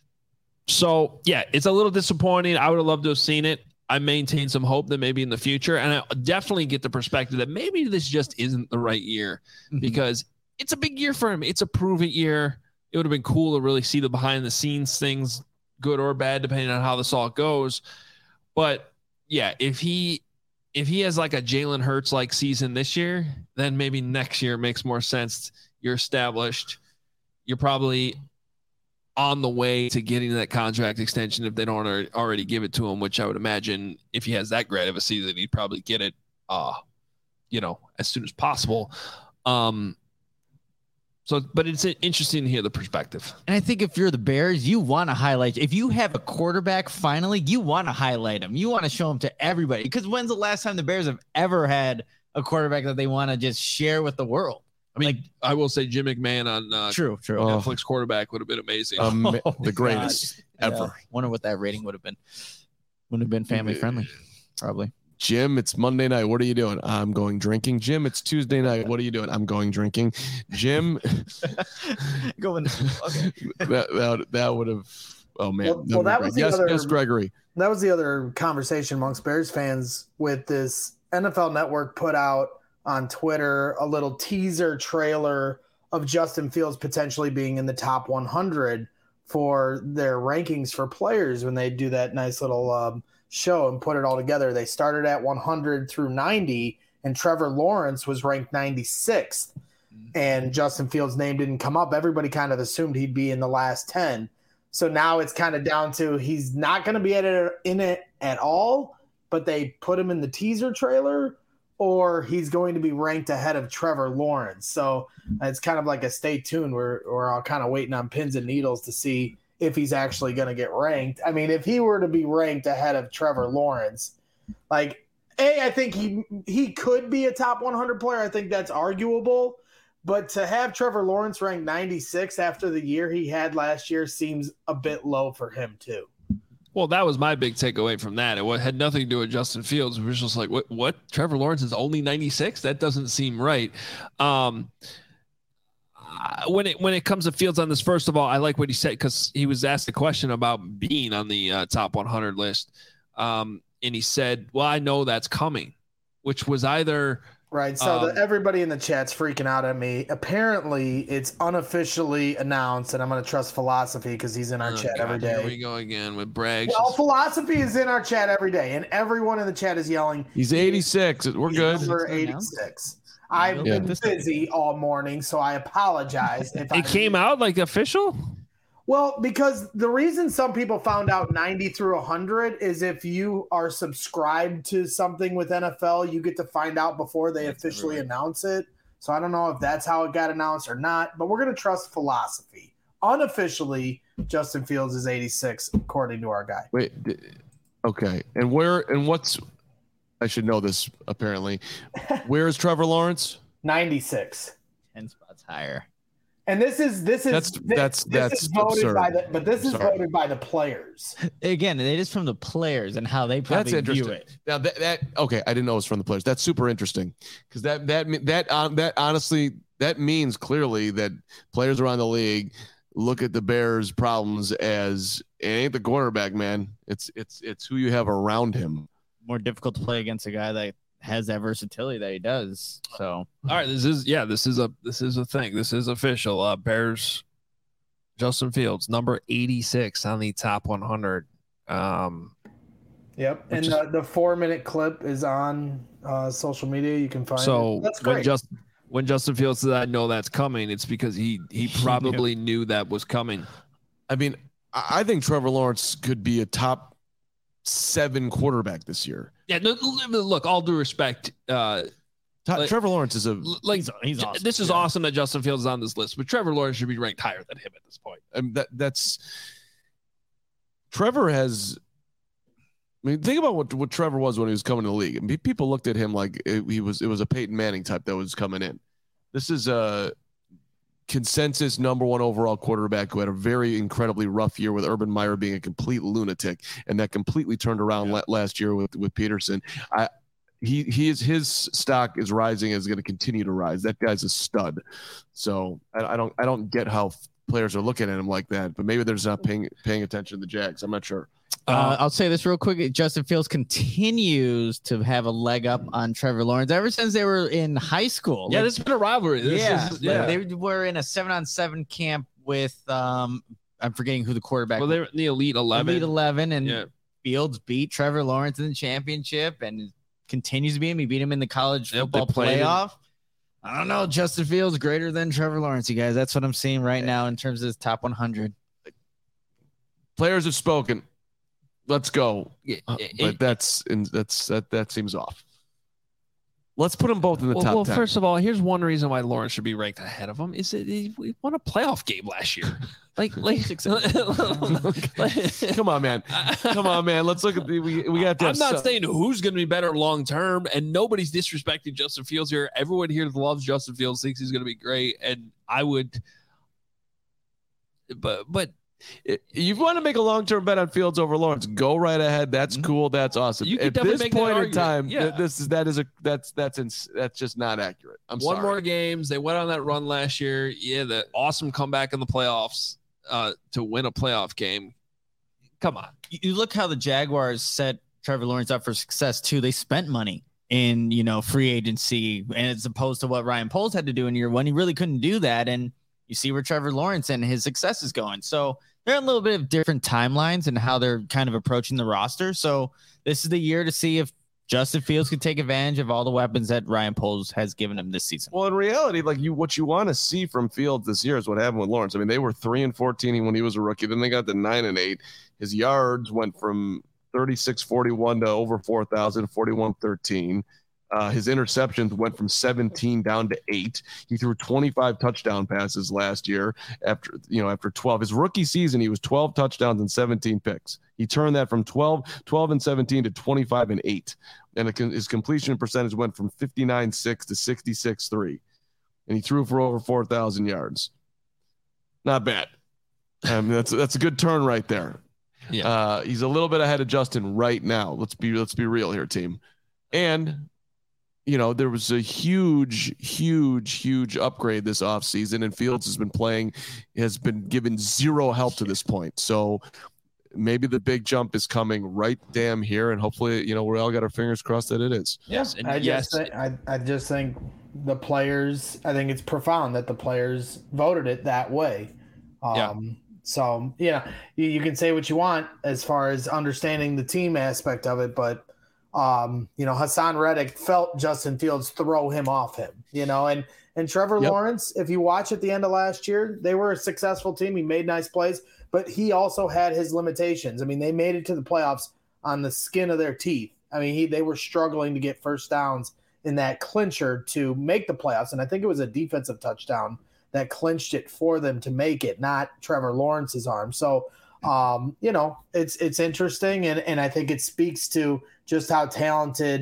[SPEAKER 1] so, yeah, it's a little disappointing. I would have loved to have seen it. I maintain some hope that maybe in the future, and I definitely get the perspective that maybe this just isn't the right year, because it's a big year for him. It's a prove-it year. It would have been cool to really see the behind-the-scenes things, good or bad, depending on how this all goes. But, yeah, if he has like a Jalen Hurts-like season this year, then maybe next year makes more sense. You're established. You're probably on the way to getting that contract extension if they don't already give it to him, which I would imagine if he has that great of a season, he'd probably get it, as soon as possible. But it's interesting to hear the perspective.
[SPEAKER 3] And I think if you're the Bears, you want to highlight, if you have a quarterback, finally, you want to highlight him. You want to show him to everybody, because when's the last time the Bears have ever had a quarterback that they want to just share with the world?
[SPEAKER 1] I mean, I will say Jim McMahon on
[SPEAKER 3] true.
[SPEAKER 1] Netflix quarterback would have been amazing.
[SPEAKER 2] The greatest ever.
[SPEAKER 3] Yeah. Wonder what that rating would have been. Wouldn't have been family friendly, probably.
[SPEAKER 2] Jim, it's Monday night. What are you doing? I'm going drinking. Jim, it's Tuesday night. What are you doing? I'm going drinking. Jim,
[SPEAKER 3] going. Okay.
[SPEAKER 2] That would have. Oh man.
[SPEAKER 4] Well, that was the other.
[SPEAKER 2] Yes, Gregory.
[SPEAKER 4] That was the other conversation amongst Bears fans with this NFL Network put out on Twitter a little teaser trailer of Justin Fields potentially being in the top 100 for their rankings for players when they do that nice little show and put it all together. They started at 100 through 90, and Trevor Lawrence was ranked 96th, and Justin Fields' name didn't come up. Everybody kind of assumed he'd be in the last 10. So now it's kind of down to he's not going to be in it at all, but they put him in the teaser trailer, or he's going to be ranked ahead of Trevor Lawrence. So it's kind of like a stay tuned. We're all kind of waiting on pins and needles to see if he's actually going to get ranked. I mean, if he were to be ranked ahead of Trevor Lawrence, I think he could be a top 100 player. I think that's arguable. But to have Trevor Lawrence ranked 96 after the year he had last year seems a bit low for him too.
[SPEAKER 1] Well, that was my big takeaway from that. It had nothing to do with Justin Fields. It was just like, what? Trevor Lawrence is only 96? That doesn't seem right. When it comes to Fields on this, first of all, I like what he said, because he was asked a question about being on the top 100 list. And he said, well, I know that's coming, which was either –
[SPEAKER 4] right. So everybody in the chat's freaking out at me. Apparently, it's unofficially announced, and I'm going to trust Philosophy because he's in our chat every day.
[SPEAKER 1] Here we go again with Bragg.
[SPEAKER 4] Well, Philosophy is in our chat every day, and everyone in the chat is yelling.
[SPEAKER 2] He's 86. We're good.
[SPEAKER 4] Number 86. I've been busy all morning, so I apologize.
[SPEAKER 1] It came out like official?
[SPEAKER 4] Well, because the reason some people found out 90 through 100 is if you are subscribed to something with NFL, you get to find out before they officially announce it. So I don't know if that's how it got announced or not, but we're going to trust Philosophy. Unofficially, Justin Fields is 86, according to our guy.
[SPEAKER 2] Wait, okay. And what's I should know this apparently. Where is Trevor Lawrence?
[SPEAKER 4] 96.
[SPEAKER 3] 10 spots higher.
[SPEAKER 4] And this is voted
[SPEAKER 2] absurd.
[SPEAKER 4] This is voted by the players.
[SPEAKER 3] Again, it is from the players and how they probably view it.
[SPEAKER 2] Now that okay, I didn't know it was from the players. That's super interesting because that honestly that means clearly that players around the league look at the Bears' problems as it ain't the quarterback, man. It's who you have around him.
[SPEAKER 3] More difficult to play against a guy that has that versatility that he does. So
[SPEAKER 1] all right, this is a thing. This is official. Bears Justin Fields, number 86 on the top 100.
[SPEAKER 4] Yep, and the 4-minute clip is on social media. You can find
[SPEAKER 1] so
[SPEAKER 4] it. That's great.
[SPEAKER 1] When Justin Fields said, "I know that's coming," it's because he probably knew that was coming.
[SPEAKER 2] I mean, I think Trevor Lawrence could be a top 7 quarterback this year.
[SPEAKER 1] Yeah, look, all due respect,
[SPEAKER 2] Trevor Lawrence is
[SPEAKER 3] he's awesome.
[SPEAKER 1] This is awesome that Justin Fields is on this list, but Trevor Lawrence should be ranked higher than him at this point.
[SPEAKER 2] That's Trevor has. I mean, think about what Trevor was when he was coming to the league. I mean, people looked at him like it was a Peyton Manning type that was coming in. This is a consensus number 1 overall quarterback who had a very incredibly rough year with Urban Meyer being a complete lunatic, and that completely turned around last year with Peterson. His stock is rising, is going to continue to rise. That guy's a stud. So I don't get how players are looking at him like that, but maybe they're just not paying attention to the Jags. I'm not sure.
[SPEAKER 3] I'll say this real quick. Justin Fields continues to have a leg up on Trevor Lawrence ever since they were in high school.
[SPEAKER 1] Yeah, this has been a rivalry.
[SPEAKER 3] They were in a 7-on-7 camp with I'm forgetting who the quarterback.
[SPEAKER 1] Well, they were in the Elite 11.
[SPEAKER 3] Elite 11, and Fields beat Trevor Lawrence in the championship, and continues to beat him. He beat him in the college football playoff. I don't know. Justin Fields greater than Trevor Lawrence, you guys. That's what I'm seeing right now in terms of his top 100.
[SPEAKER 2] Players have spoken. Let's go. But that seems off. Let's put them both in the top 10.
[SPEAKER 1] Well, first of all, here's one reason why Lawrence should be ranked ahead of him is that he won a playoff game last year.
[SPEAKER 2] Come on, man. Let's look at we got to.
[SPEAKER 1] I'm not saying who's going to be better long term, and nobody's disrespecting Justin Fields here. Everyone here loves Justin Fields, thinks he's going to be great, and I would. But
[SPEAKER 2] if you want to make a long-term bet on Fields over Lawrence, go right ahead. That's cool. That's awesome.
[SPEAKER 1] You
[SPEAKER 2] At this point in time,
[SPEAKER 1] yeah.
[SPEAKER 2] that's just not accurate. I'm sorry.
[SPEAKER 1] One more games. They went on that run last year. Yeah, the awesome comeback in the playoffs to win a playoff game. Come on.
[SPEAKER 3] You look how the Jaguars set Trevor Lawrence up for success too. They spent money in free agency, and as opposed to what Ryan Poles had to do in year 1, he really couldn't do that. And you see where Trevor Lawrence and his success is going. So they're on a little bit of different timelines and how they're kind of approaching the roster. So this is the year to see if Justin Fields can take advantage of all the weapons that Ryan Poles has given him this season.
[SPEAKER 2] Well, in reality, what you want to see from Fields this year is what happened with Lawrence. I mean, they were 3-14 when he was a rookie. Then they got to 9-8. His yards went from 3641 to over 4,000, 4113. His interceptions went from 17 down to 8. He threw 25 touchdown passes last year after 12. His rookie season, he was 12 touchdowns and 17 picks. He turned that from 12 and 17 to 25 and 8. And his completion percentage went from 59.6 to 66.3. And he threw for over 4,000 yards. Not bad. That's a good turn right there.
[SPEAKER 1] Yeah.
[SPEAKER 2] He's a little bit ahead of Justin right now. Let's be real here, team. And there was a huge upgrade this offseason, and Fields has been given zero help to this point. So maybe the big jump is coming right damn here, and hopefully, we all got our fingers crossed that it is.
[SPEAKER 1] Yes.
[SPEAKER 4] I just think the players, I think it's profound that the players voted it that way. So, you can say what you want as far as understanding the team aspect of it, but Hassan Reddick felt Justin Fields throw him off him, and Trevor Lawrence, if you watch at the end of last year, they were a successful team. He made nice plays, but he also had his limitations. I mean, they made it to the playoffs on the skin of their teeth. I mean, they were struggling to get first downs in that clincher to make the playoffs. And I think it was a defensive touchdown that clinched it for them to make it, not Trevor Lawrence's arm. So, it's interesting. And I think it speaks to just how talented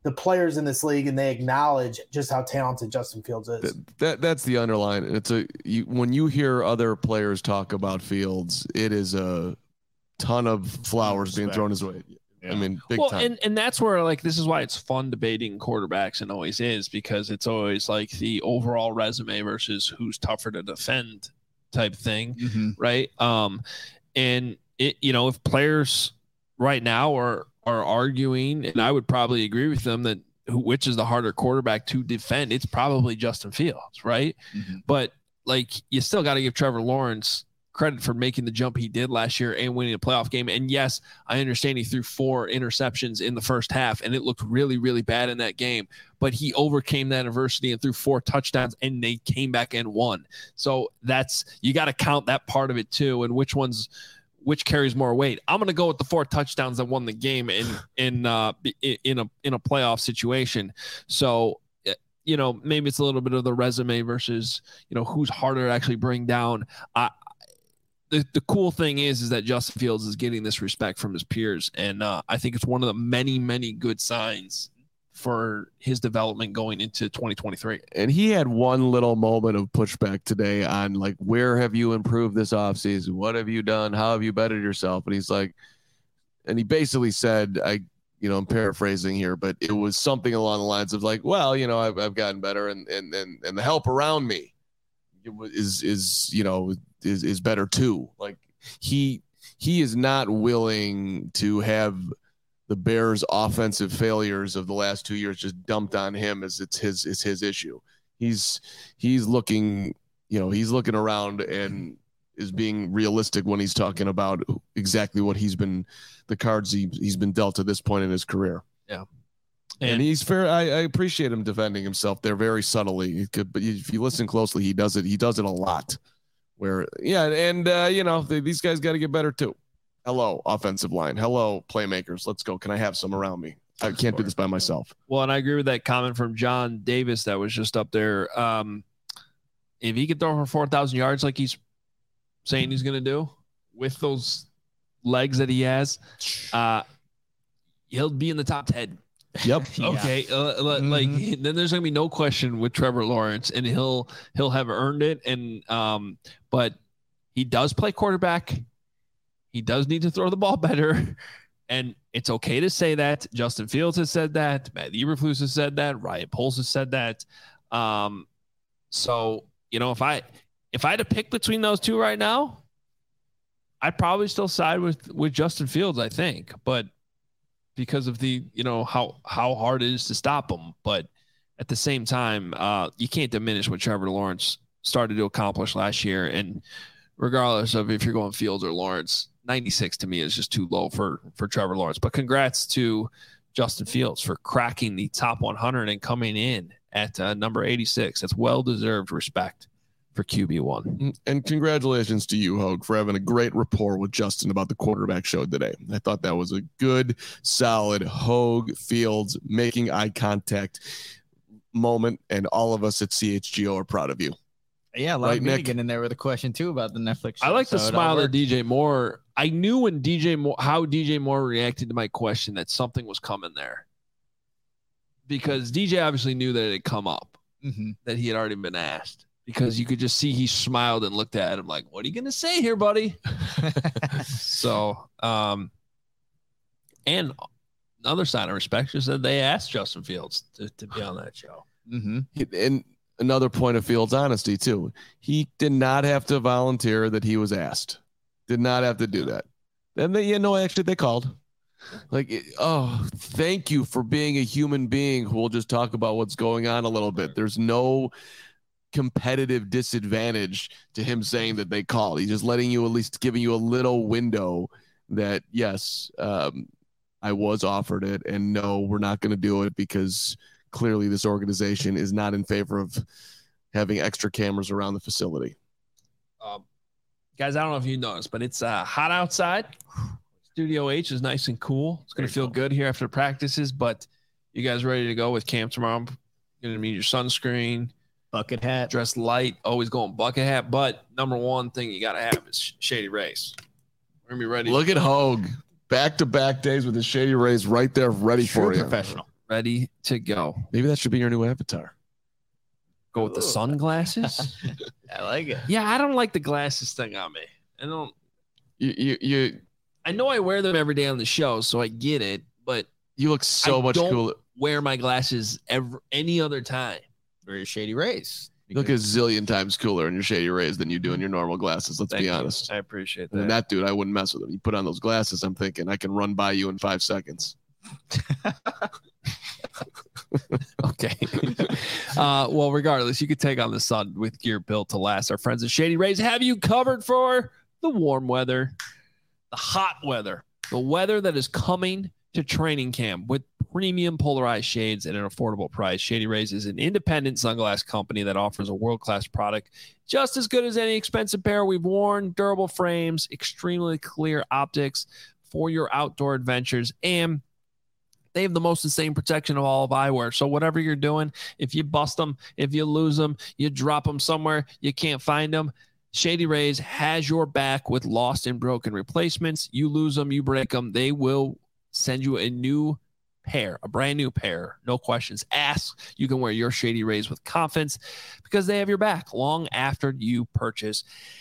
[SPEAKER 4] the players in this league and they acknowledge just how talented Justin Fields is.
[SPEAKER 2] That's the underline. When you hear other players talk about Fields, it is a ton of flowers being thrown his way. Yeah. I mean, big time.
[SPEAKER 1] And that's where, like, this is why it's fun debating quarterbacks, and always is, because it's always like the overall resume versus who's tougher to defend type thing, right? And it, if players right now are arguing, and I would probably agree with them, that which is the harder quarterback to defend, it's probably Justin Fields, right? But like, you still got to give Trevor Lawrence credit for making the jump he did last year and winning a playoff game. And yes, I understand he threw 4 interceptions in the first half, and it looked really, really bad in that game, but he overcame that adversity and threw 4 touchdowns, and they came back and won. So you got to count that part of it too. And which carries more weight? I'm going to go with the 4 touchdowns that won the game in a playoff situation. So, maybe it's a little bit of the resume versus, who's harder to actually bring down. The cool thing is that Justin Fields is getting this respect from his peers. And I think it's one of the many, many good signs for his development going into 2023.
[SPEAKER 2] And he had one little moment of pushback today on, like, where have you improved this offseason? What have you done? How have you bettered yourself? And he's like, and he basically said, I'm paraphrasing here, but it was something along the lines of like, well, I've gotten better, and the help around me is better too. Like, he is not willing to have the Bears' offensive failures of the last 2 years just dumped on him as it's his issue. He's looking around and is being realistic when he's talking about exactly what the cards he's been dealt to this point in his career.
[SPEAKER 1] Yeah.
[SPEAKER 2] And he's fair. I appreciate him defending himself there very subtly. But if you listen closely, he does it a lot. These guys got to get better too. Hello, offensive line. Hello, playmakers. Let's go. Can I have some around me? I can't do this by myself.
[SPEAKER 1] Well, and I agree with that comment from John Davis that was just up there. If he could throw for 4,000 yards like he's saying he's going to do with those legs that he has, he'll be in the top 10.
[SPEAKER 2] Yep.
[SPEAKER 1] Okay. Like, then there's gonna be no question with Trevor Lawrence, and he'll have earned it. And but he does play quarterback. He does need to throw the ball better, and it's okay to say that. Justin Fields has said that. Matt Eberflus has said that. Ryan Poles has said that. So if I had to pick between those two right now, I'd probably still side with Justin Fields, I think, but because of the, how hard it is to stop him. But at the same time, you can't diminish what Trevor Lawrence started to accomplish last year. And regardless of if you're going Fields or Lawrence, 96 to me is just too low for Trevor Lawrence. But congrats to Justin Fields for cracking the top 100 and coming in at number 86. That's well-deserved respect for QB1.
[SPEAKER 2] And congratulations to you, Hogue, for having a great rapport with Justin about the quarterback show today. I thought that was a good, solid Hogue Fields making eye contact moment, and all of us at CHGO are proud of you.
[SPEAKER 3] Yeah, like me to get in there with a question too about the Netflix show.
[SPEAKER 1] I like the smile of DJ Moore. I knew when how DJ Moore reacted to my question that something was coming there, because DJ obviously knew that it had come up, that he had already been asked. Because you could just see he smiled and looked at him like, what are you going to say here, buddy? So, and another sign of respect is that they asked Justin Fields to be on that show.
[SPEAKER 2] And another point of Fields' honesty, too. He did not have to volunteer that he was asked. Did not have to do that. And actually they called. Like, thank you for being a human being who will just talk about what's going on a little bit. There's no competitive disadvantage to him saying that they called. He's just letting you, at least giving you a little window that, yes, I was offered it, and no, we're not going to do it because clearly this organization is not in favor of having extra cameras around the facility.
[SPEAKER 1] Guys, I don't know if you noticed, but it's hot outside. Studio H is nice and cool. It's going to feel good here after practices, but you guys ready to go with camp tomorrow? Going to need your sunscreen,
[SPEAKER 3] bucket hat,
[SPEAKER 1] dress light, always going bucket hat. But number one thing you got to have is Shady Rays. We're going to be ready.
[SPEAKER 2] Look at Hogue. Back-to-back days with the Shady Rays right there ready for you.
[SPEAKER 3] Professional.
[SPEAKER 1] ready to go.
[SPEAKER 2] Maybe that should be your new avatar.
[SPEAKER 1] Go with the sunglasses.
[SPEAKER 3] I like it.
[SPEAKER 1] Yeah, I don't like the glasses thing on me. I don't.
[SPEAKER 2] You
[SPEAKER 1] I know I wear them every day on the show, so I get it. But
[SPEAKER 2] you look so much cooler.
[SPEAKER 1] Wear my glasses any other time.
[SPEAKER 3] Or your Shady Rays.
[SPEAKER 2] You look a zillion times cooler in your Shady Rays than you do in your normal glasses. Let's be honest.
[SPEAKER 1] I appreciate
[SPEAKER 2] And
[SPEAKER 1] that.
[SPEAKER 2] that dude, I wouldn't mess with him. You put on those glasses, I'm thinking I can run by you in 5 seconds.
[SPEAKER 1] Okay. Well, regardless, you could take on the sun with gear built to last. Our friends at Shady Rays have you covered for the warm weather, the hot weather, the weather that is coming to training camp with premium polarized shades at an affordable price. Shady Rays is an independent sunglass company that offers a world-class product just as good as any expensive pair we've worn, durable frames, extremely clear optics for your outdoor adventures, and they have the most insane protection of all of eyewear. So whatever you're doing, if you bust them, if you lose them, you drop them somewhere, you can't find them, Shady Rays has your back with lost and broken replacements. You lose them, you break them, they will send you a new pair, a brand new pair. No questions asked. You can wear your Shady Rays with confidence because they have your back long after you purchase.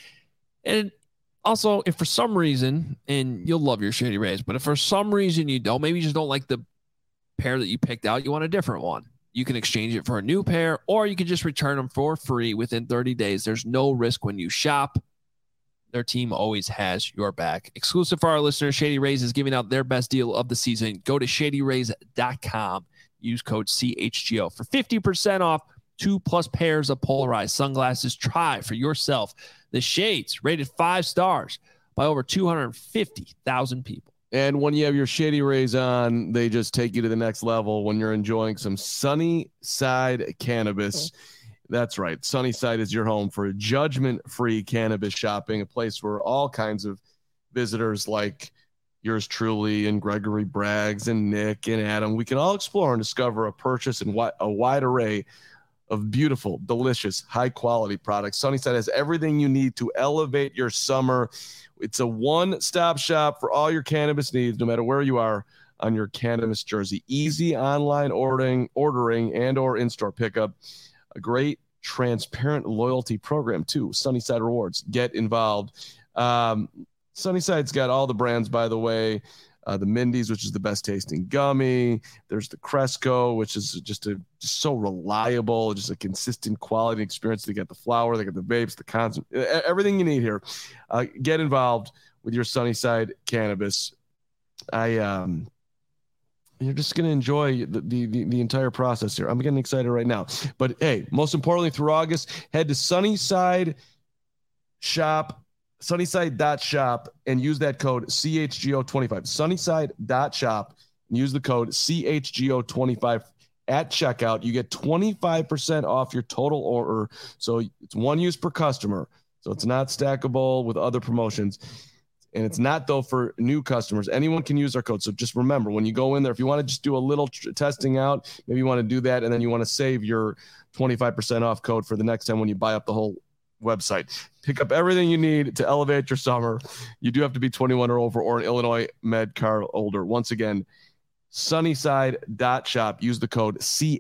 [SPEAKER 1] And also, if for some reason, and you'll love your Shady Rays, but if for some reason you don't, maybe you just don't like the pair that you picked out, you want a different one, you can exchange it for a new pair, or you can just return them for free within 30 days. There's no risk when you shop. Their team always has your back. Exclusive for our listeners, Shady Rays is giving out their best deal of the season. Go to shadyrays.com. Use code CHGO for 50% off 2+ pairs of polarized sunglasses. Try for yourself the shades rated 5 stars by over 250,000 people.
[SPEAKER 2] And when you have your Shady Rays on, they just take you to the next level when you're enjoying some Sunnyside cannabis. That's right. Sunnyside is your home for judgment-free cannabis shopping, a place where all kinds of visitors like yours truly and Gregory Braggs and Nick and Adam, we can all explore and discover a purchase and a wide array of beautiful, delicious, high-quality products. Sunnyside has everything you need to elevate your summer. It's a one-stop shop for all your cannabis needs, no matter where you are on your cannabis jersey. Easy online ordering and or in-store pickup. A great transparent loyalty program too. Sunnyside Rewards. Get involved. Sunnyside's got all the brands, by the way. The Mindy's, which is the best tasting gummy. There's the Cresco, which is just so reliable, just a consistent quality experience. They got the flower, they got the vapes, the concentrate, everything you need here. Get involved with your Sunnyside cannabis. You're just going to enjoy the entire process here. I'm getting excited right now. But hey, most importantly, through August, head to Sunnyside.shop and use that code CHGO25. Sunnyside.shop and use the code CHGO25 at checkout. You get 25% off your total order. So it's one use per customer. So it's not stackable with other promotions. And it's not, though, for new customers. Anyone can use our code. So just remember, when you go in there, if you want to just do a little testing out, maybe you want to do that, and then you want to save your 25% off code for the next time when you buy up the whole website. Pick up everything you need to elevate your summer. You do have to be 21 or over or an Illinois med card holder. Once again, Sunnyside.shop. Use the code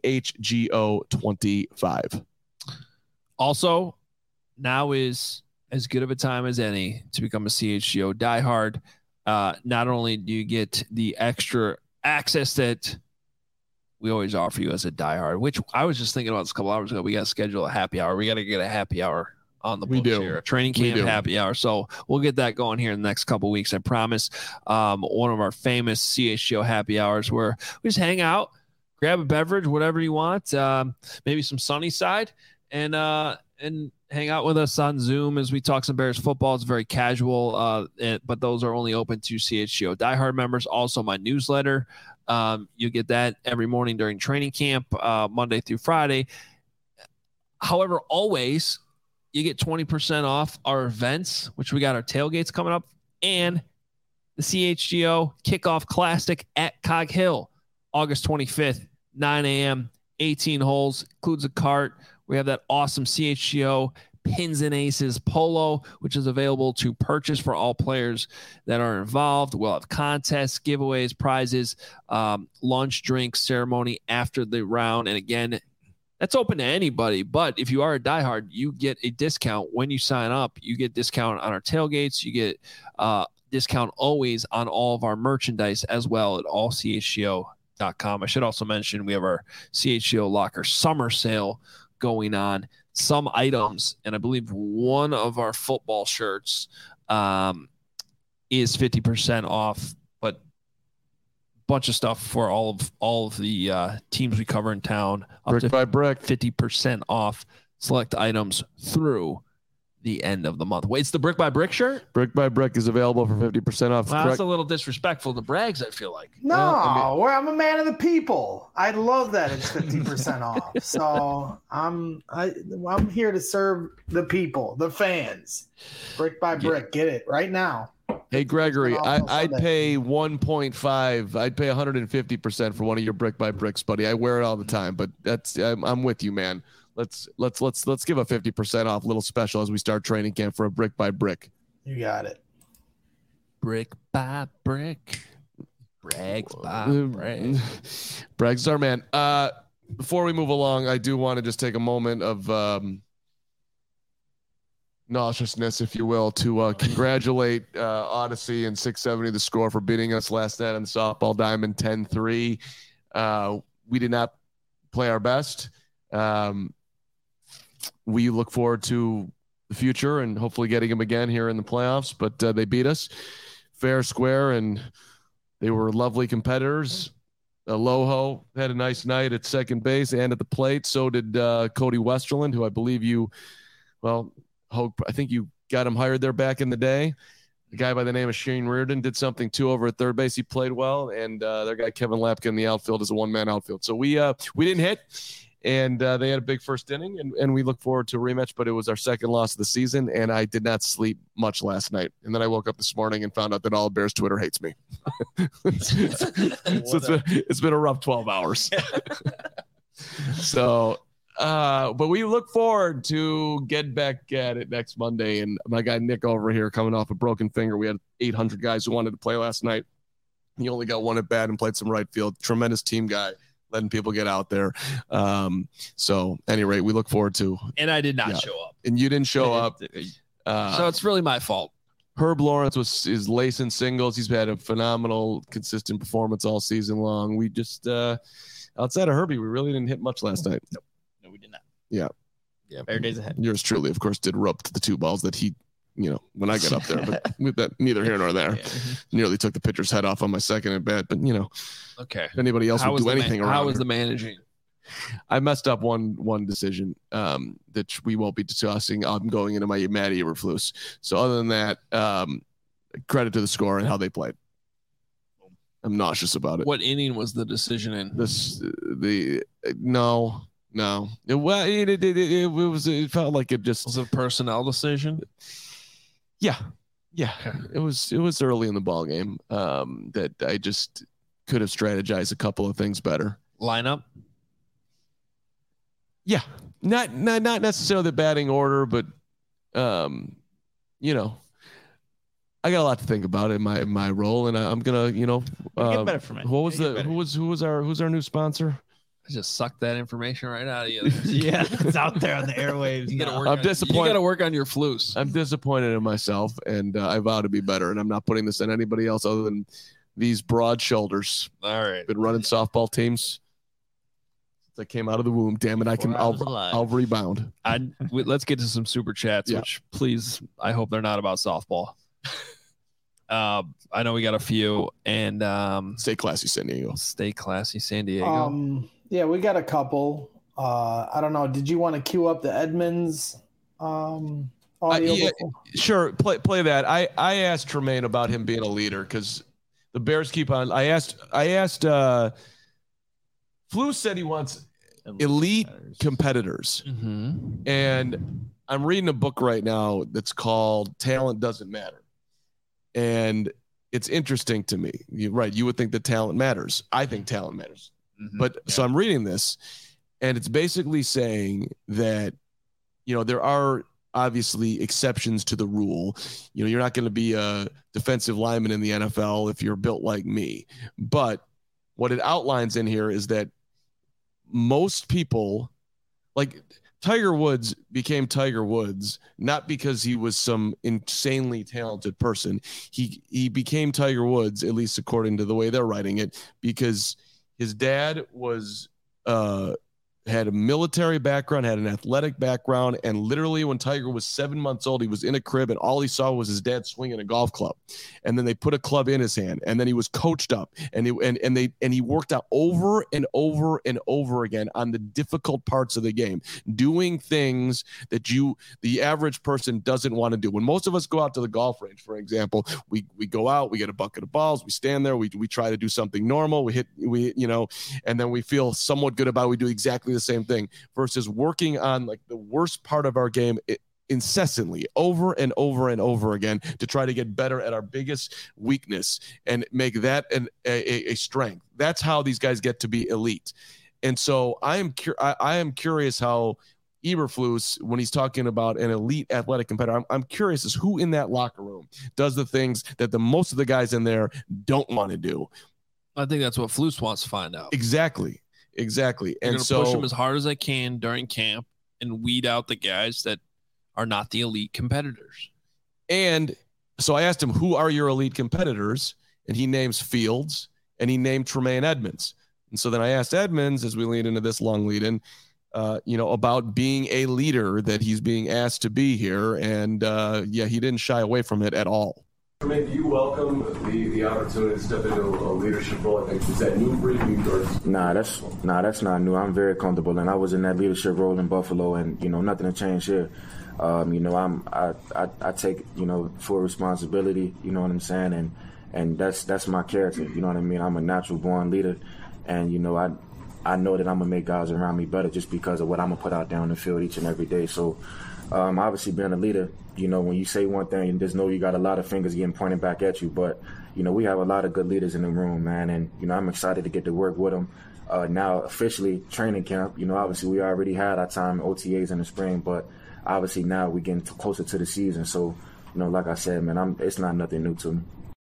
[SPEAKER 2] CHGO25.
[SPEAKER 1] Also, now is as good of a time as any to become a CHGO diehard. Not only do you get the extra access that we always offer you as a diehard, which I was just thinking about this a couple hours ago. We got to schedule a happy hour. We got to get a happy hour on the books here, a training camp happy hour. So we'll get that going here in the next couple of weeks. I promise. One of our famous CHGO happy hours where we just hang out, grab a beverage, whatever you want, maybe some Sunnyside, and hang out with us on Zoom as we talk some Bears football. It's very casual, but those are only open to CHGO diehard members. Also, my newsletter. You get that every morning during training camp, Monday through Friday. However, always you get 20% off our events, which we got our tailgates coming up, and the CHGO Kickoff Classic at Cog Hill, August 25th, 9 a.m., 18 holes, includes a cart. We have that awesome CHGO Pins and Aces polo, which is available to purchase for all players that are involved. We'll have contests, giveaways, prizes, lunch, drinks, ceremony after the round. And again, that's open to anybody. But if you are a diehard, you get a discount when you sign up. You get discount on our tailgates. You get discount always on all of our merchandise as well at allchgo.com. I should also mention we have our CHGO Locker summer sale going on. Some items, and I believe one of our football shirts is 50% off, but a bunch of stuff for all of the teams we cover in town.
[SPEAKER 2] Brick by brick.
[SPEAKER 1] 50% off select items through the end of the month. Wait, it's the Brick by Brick shirt?
[SPEAKER 2] Brick by brick is available for 50% off.
[SPEAKER 1] Wow, that's a little disrespectful to Braggs, I feel like.
[SPEAKER 4] No, I'm a man of the people. I love that it's 50% off. So I'm here to serve the people, the fans. Brick by brick, get it right now.
[SPEAKER 2] Hey Gregory, I'd pay 1.5. I'd pay 150% for one of your Brick by Bricks, buddy. I wear it all the time, but I'm with you, man. Let's give a 50% off little special as we start training camp for a Brick by Brick.
[SPEAKER 4] You got it.
[SPEAKER 1] Brick by brick. Braggs by brag.
[SPEAKER 2] Braggs is our man. Before we move along, I do want to just take a moment of nauseousness, if you will, to congratulate Odyssey and 670 The Score for beating us last night on the softball diamond 10-3. We did not play our best. We look forward to the future and hopefully getting them again here in the playoffs, but they beat us fair, square, and they were lovely competitors. Aloho had a nice night at second base and at the plate. So did Cody Westerland, who I believe I think you got him hired there back in the day. A guy by the name of Shane Reardon did something too over at third base. He played well, and their guy Kevin Lapka in the outfield is a one-man outfield. So we didn't hit, and they had a big first inning, and we look forward to a rematch. But it was our second loss of the season, and I did not sleep much last night. And then I woke up this morning and found out that all of Bears Twitter hates me. It's been a rough 12 hours. So. But we look forward to get back at it next Monday. And my guy Nick over here coming off a broken finger. We had 800 guys who wanted to play last night. He only got one at bat and played some right field. Tremendous team guy, letting people get out there. So at any rate, we look forward to.
[SPEAKER 1] And I did not show up.
[SPEAKER 2] And you didn't show up.
[SPEAKER 1] So it's really my fault.
[SPEAKER 2] Herb Lawrence is lacing singles. He's had a phenomenal, consistent performance all season long. We just, outside of Herbie, we really didn't hit much last night.
[SPEAKER 3] Nope. No, we did not.
[SPEAKER 2] Yeah.
[SPEAKER 3] Better days ahead.
[SPEAKER 2] Yours truly, of course, did rope to the two balls that he, when I got up there, but with that, neither here nor there. Yeah. Nearly took the pitcher's head off on my second at bat, but
[SPEAKER 1] okay.
[SPEAKER 2] If anybody else would do anything around.
[SPEAKER 1] How was the managing?
[SPEAKER 2] I messed up one decision that we won't be discussing. I'm going into my Matty Eberflus. So other than that, credit to the Score and how they played. I'm nauseous about it.
[SPEAKER 1] What inning was the decision in?
[SPEAKER 2] No. It felt like it just
[SPEAKER 1] was a personnel decision.
[SPEAKER 2] Yeah. It was early in the ball game that I just could have strategized a couple of things better.
[SPEAKER 1] Lineup.
[SPEAKER 2] Yeah, not necessarily the batting order, but I got a lot to think about in my role, and I'm gonna
[SPEAKER 3] get better from it.
[SPEAKER 2] Who's our new sponsor?
[SPEAKER 1] I just sucked that information right out of you.
[SPEAKER 3] Yeah, it's out there on the airwaves.
[SPEAKER 2] I'm disappointed.
[SPEAKER 1] You got to work on your flus.
[SPEAKER 2] I'm disappointed in myself, and I vow to be better. And I'm not putting this on anybody else other than these broad shoulders.
[SPEAKER 1] All right,
[SPEAKER 2] been running softball teams since I came out of the womb. Damn it, I'll rebound.
[SPEAKER 1] Let's get to some super chats.
[SPEAKER 2] Yeah.
[SPEAKER 1] Which please, I hope they're not about softball. I know we got a few, and
[SPEAKER 2] stay classy, San Diego.
[SPEAKER 1] Stay classy, San Diego.
[SPEAKER 4] Yeah, we got a couple. I don't know. Did you want to queue up the Edmonds audio?
[SPEAKER 2] Yeah, sure. Play that. I asked Tremaine about him being a leader because the Bears keep on. I asked. Flu said he wants elite competitors, and I'm reading a book right now that's called "Talent Doesn't Matter," and it's interesting to me. You're right. You would think that talent matters. I think talent matters. But so I'm reading this, and it's basically saying that, there are obviously exceptions to the rule. You know, you're not going to be a defensive lineman in the NFL if you're built like me. But what it outlines in here is that most people, like Tiger Woods became Tiger Woods, not because he was some insanely talented person. He became Tiger Woods, at least according to the way they're writing it, because his dad was had a military background, had an athletic background, and literally when Tiger was 7 months old, he was in a crib and all he saw was his dad swinging a golf club. And then they put a club in his hand, and then he was coached up, and he worked out over and over and over again on the difficult parts of the game, doing things that the average person doesn't want to do. When most of us go out to the golf range, for example, we go out, we get a bucket of balls, we stand there, we try to do something normal, we and then we feel somewhat good about it. We do exactly the same thing, versus working on like the worst part of our game incessantly over and over and over again to try to get better at our biggest weakness and make that a strength. That's how these guys get to be elite. And so I am curious how Eberflus, when he's talking about an elite athletic competitor, I'm curious as who in that locker room does the things that the most of the guys in there don't want to do.
[SPEAKER 1] I think that's what Flus wants to find out.
[SPEAKER 2] Exactly. And so
[SPEAKER 1] push them as hard as I can during camp and weed out the guys that are not the elite competitors.
[SPEAKER 2] And so I asked him, who are your elite competitors? And he names Fields and he named Tremaine Edmonds. And so then I asked Edmonds, as we lead into this long lead in, about being a leader that he's being asked to be here. And he didn't shy away from it at all.
[SPEAKER 8] Tremaine, do you welcome the opportunity to step into a leadership role? I think, is that new for you?
[SPEAKER 9] Nah, that's not new. I'm very comfortable, and I was in that leadership role in Buffalo, and nothing to change here. I take full responsibility. You know what I'm saying, and that's my character. You know what I mean. I'm a natural born leader, and I know that I'm gonna make guys around me better just because of what I'm gonna put out there on the field each and every day. So, obviously, being a leader. When you say one thing, just know you got a lot of fingers getting pointed back at you. But, we have a lot of good leaders in the room, man. And, I'm excited to get to work with them. Now, officially, training camp, obviously we already had our time OTAs in the spring. But, obviously, now we're getting closer to the season. So, like I said, man, it's not nothing new to me.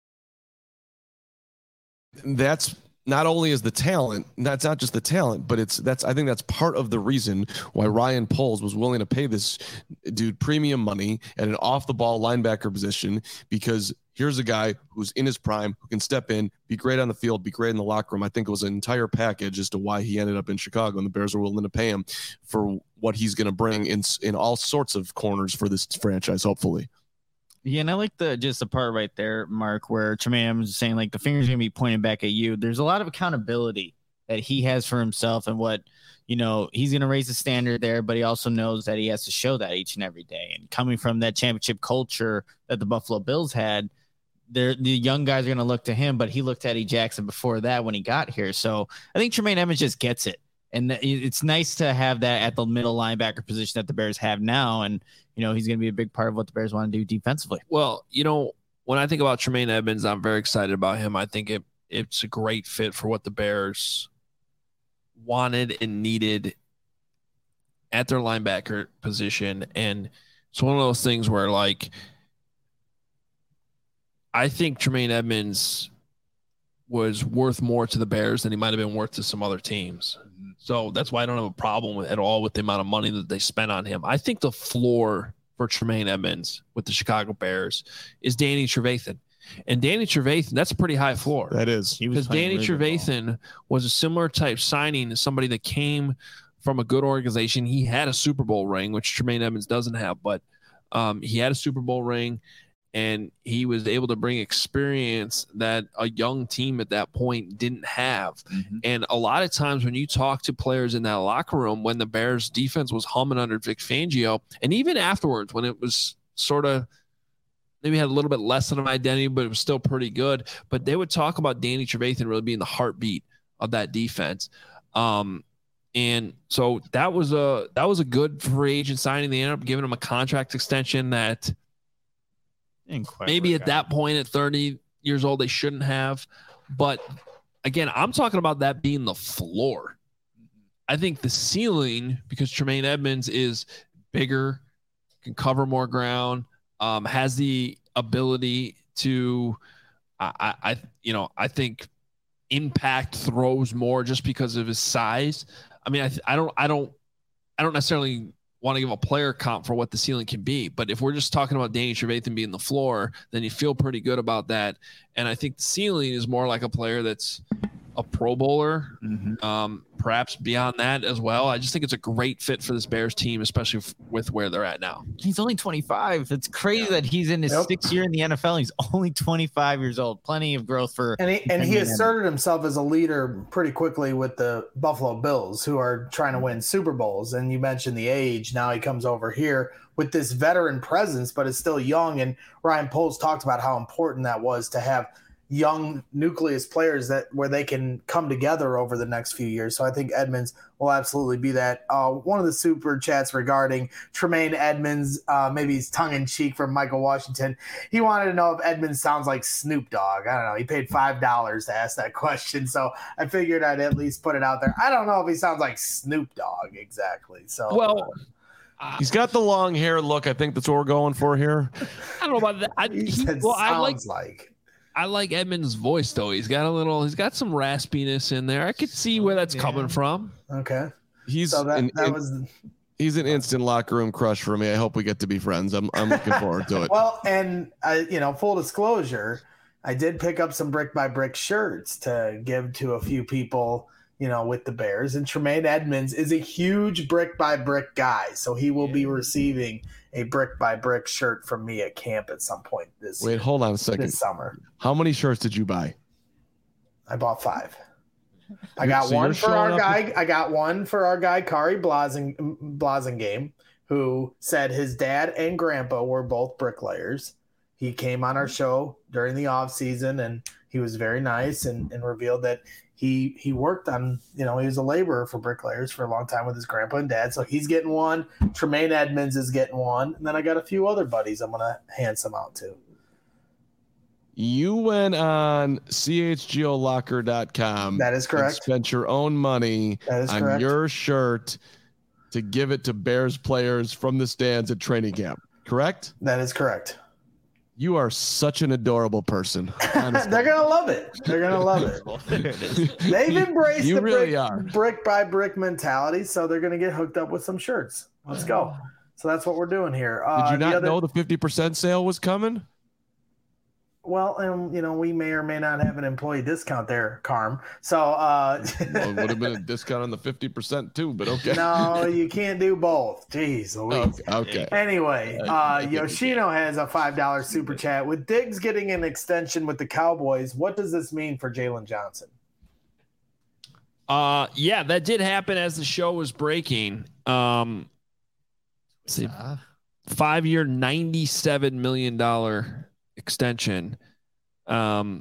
[SPEAKER 2] That's not only is the talent, that's not just the talent, but I think that's part of the reason why Ryan Poles was willing to pay this dude premium money at an off the ball linebacker position, because here's a guy who's in his prime, who can step in, be great on the field, be great in the locker room. I think it was an entire package as to why he ended up in Chicago, and the Bears were willing to pay him for what he's going to bring in all sorts of corners for this franchise, hopefully.
[SPEAKER 3] Yeah, and I like the part right there, Mark, where Tremaine was saying like the finger's gonna be pointing back at you. There's a lot of accountability that he has for himself and what he's gonna raise the standard there, but he also knows that he has to show that each and every day. And coming from that championship culture that the Buffalo Bills had, the young guys are gonna look to him, but he looked at E. Jackson before that when he got here. So I think Tremaine Edmonds just gets it. And it's nice to have that at the middle linebacker position that the Bears have now. And, he's going to be a big part of what the Bears want to do defensively.
[SPEAKER 1] Well, when I think about Tremaine Edmonds, I'm very excited about him. I think it's a great fit for what the Bears wanted and needed at their linebacker position. And it's one of those things where, like, I think Tremaine Edmonds was worth more to the Bears than he might have been worth to some other teams. So that's why I don't have a problem at all with the amount of money that they spent on him. I think the floor for Tremaine Edmonds with the Chicago Bears is Danny Trevathan. And Danny Trevathan, that's a pretty high floor.
[SPEAKER 2] That is.
[SPEAKER 1] Because Danny Trevathan was a similar type signing to somebody that came from a good organization. He had a Super Bowl ring, which Tremaine Edmonds doesn't have, but he had a Super Bowl ring. And he was able to bring experience that a young team at that point didn't have. Mm-hmm. And a lot of times when you talk to players in that locker room, when the Bears defense was humming under Vic Fangio, and even afterwards when it was sort of maybe had a little bit less of an identity, but it was still pretty good. But they would talk about Danny Trevathan really being the heartbeat of that defense. And so that was a good free agent signing. They ended up giving him a contract extension that maybe at that point at 30 years old, they shouldn't have. But again, I'm talking about that being the floor. I think the ceiling, because Tremaine Edmonds is bigger, can cover more ground, has the ability to, I think impact throws more just because of his size. I mean, I don't necessarily want to give a player comp for what the ceiling can be, but if we're just talking about Danny Trevathan being the floor, then you feel pretty good about that. And I think the ceiling is more like a player that's a Pro Bowler, perhaps beyond that as well. I just think it's a great fit for this Bears team, especially with where they're at now.
[SPEAKER 3] He's only 25. It's crazy that he's in his 6th year in the NFL. He's only 25 years old. Plenty of growth for.
[SPEAKER 4] And he asserted himself as a leader pretty quickly with the Buffalo Bills, who are trying to win Super Bowls. And you mentioned the age. Now he comes over here with this veteran presence, but is still young. And Ryan Poles talked about how important that was to have young nucleus players where they can come together over the next few years. So I think Edmonds will absolutely be that. One of the super chats regarding Tremaine Edmonds, maybe he's tongue in cheek from Michael Washington. He wanted to know if Edmonds sounds like Snoop Dogg. I don't know. He paid $5 to ask that question. So I figured I'd at least put it out there. I don't know if he sounds like Snoop Dogg exactly. So,
[SPEAKER 1] well,
[SPEAKER 2] he's got the long hair look. I think that's what we're going for here.
[SPEAKER 1] I don't know about that. I like Edmonds' voice though. He's got some raspiness in there. I could see where that's coming from.
[SPEAKER 4] Okay.
[SPEAKER 2] He's an instant locker room crush for me. I hope we get to be friends. I'm looking forward to it.
[SPEAKER 4] Well, and full disclosure, I did pick up some brick by brick shirts to give to a few people, with the Bears, and Tremaine Edmonds is a huge brick by brick guy. So he will be receiving a brick by brick shirt from me at camp at some point
[SPEAKER 2] hold on a second.
[SPEAKER 4] This summer.
[SPEAKER 2] How many shirts did you buy?
[SPEAKER 4] I bought 5. I got one for our guy. I got one for our guy, Kari Blasingame, who said his dad and grandpa were both bricklayers. He came on our show during the off season, and he was very nice and revealed that he worked on, he was a laborer for bricklayers for a long time with his grandpa and dad. So he's getting one. Tremaine Edmonds is getting one. And then I got a few other buddies I'm going to hand some out to.
[SPEAKER 2] You went on chgolocker.com.
[SPEAKER 4] That is correct.
[SPEAKER 2] And spent your own money on your shirt to give it to Bears players from the stands at training camp. Correct?
[SPEAKER 4] That is correct.
[SPEAKER 2] You are such an adorable person.
[SPEAKER 4] They're gonna love it. They're gonna love it. They've embraced brick by brick mentality, so they're gonna get hooked up with some shirts. Let's go. So that's what we're doing here.
[SPEAKER 2] Did you not know the 50% sale was coming?
[SPEAKER 4] Well, and we may or may not have an employee discount there, Carm. So
[SPEAKER 2] well, it would have been a discount on the 50% too, but okay.
[SPEAKER 4] No, you can't do both. Jeez Louise.
[SPEAKER 2] Okay.
[SPEAKER 4] Anyway, Yoshino has a $5 super chat. With Diggs getting an extension with the Cowboys, what does this mean for Jalen Johnson?
[SPEAKER 1] Yeah, that did happen as the show was breaking. 5-year, $97 million extension. I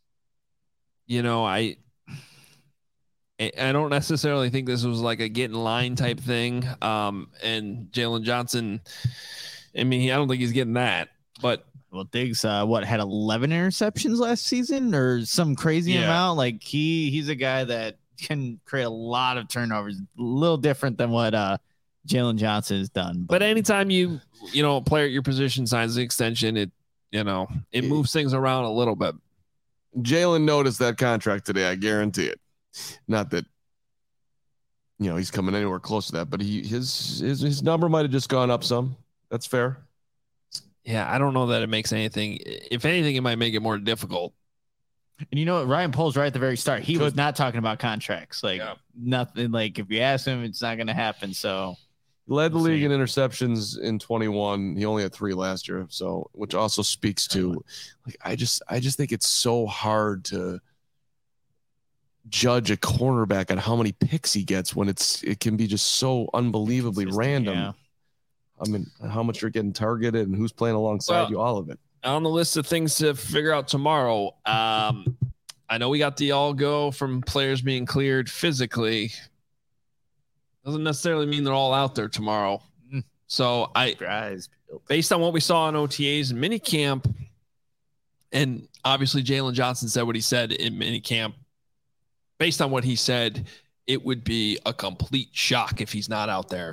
[SPEAKER 1] don't necessarily think this was like a get in line type thing. And Jalen Johnson, I don't think he's getting that, but
[SPEAKER 3] Diggs, had 11 interceptions last season or some crazy amount. Like he's a guy that can create a lot of turnovers, a little different than what Jalen Johnson has done.
[SPEAKER 1] But anytime a player at your position signs the extension, it moves things around a little bit.
[SPEAKER 2] Jalen noticed that contract today. I guarantee it. Not that, he's coming anywhere close to that, but his number might've just gone up some. That's fair.
[SPEAKER 1] Yeah. I don't know that it makes anything. If anything, it might make it more difficult.
[SPEAKER 3] And Ryan Poles right at the very start, he was not talking about contracts. Nothing, like if you ask him, it's not going to happen. So
[SPEAKER 2] led the league in interceptions in 21. He only had 3 last year. So, which also speaks to, I just think it's so hard to judge a cornerback on how many picks he gets when it can be just so unbelievably random. Yeah. How much you're getting targeted and who's playing alongside you, all of it.
[SPEAKER 1] On the list of things to figure out tomorrow, I know we got the all go from players being cleared physically. Doesn't necessarily mean they're all out there tomorrow. So based on what we saw in OTAs and minicamp, and obviously Jalen Johnson said what he said in minicamp, based on what he said, it would be a complete shock if he's not out there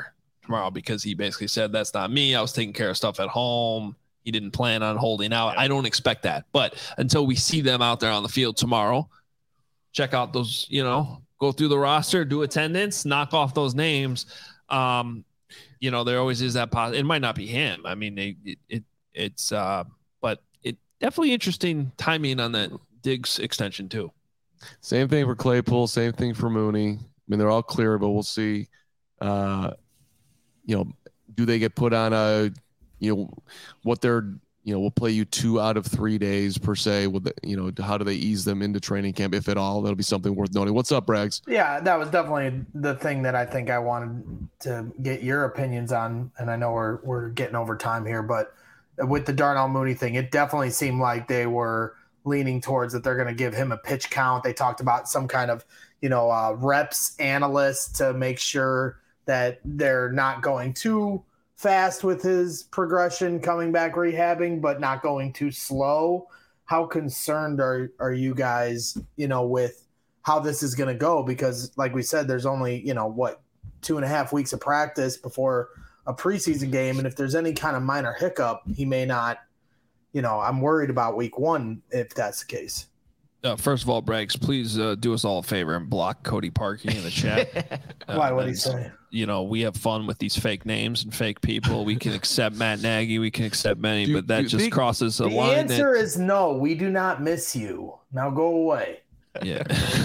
[SPEAKER 1] tomorrow because he basically said, that's not me. I was taking care of stuff at home. He didn't plan on holding out. I don't expect that. But until we see them out there on the field tomorrow, check out those, go through the roster, do attendance, knock off those names. There always is that positive. It might not be him. I mean, it's but it definitely interesting timing on that Diggs extension too.
[SPEAKER 2] Same thing for Claypool. Same thing for Mooney. I mean, they're all clear, but we'll see. Do they get put on a, what they're, we'll play you 2 out of 3 days per se. With how do they ease them into training camp, if at all? That'll be something worth noting. What's up, Braggs?
[SPEAKER 4] Yeah, that was definitely the thing that I think I wanted to get your opinions on. And I know we're getting over time here, but with the Darnell Mooney thing, it definitely seemed like they were leaning towards that they're going to give him a pitch count. They talked about some kind of, reps analyst to make sure that they're not going too fast with his progression coming back rehabbing, but not going too slow. How concerned are you guys, with how this is going to go? Because like we said, there's only, 2.5 weeks of practice before a preseason game. And if there's any kind of minor hiccup, he may not, I'm worried about week 1 if that's the case.
[SPEAKER 1] First of all, Braggs, please do us all a favor and block Cody Parkey in the chat.
[SPEAKER 4] Why? What did he say?
[SPEAKER 1] We have fun with these fake names and fake people. We can accept Matt Nagy. We can accept many, but that just crosses a line.
[SPEAKER 4] The answer is no. We do not miss you. Now go away.
[SPEAKER 1] Yeah.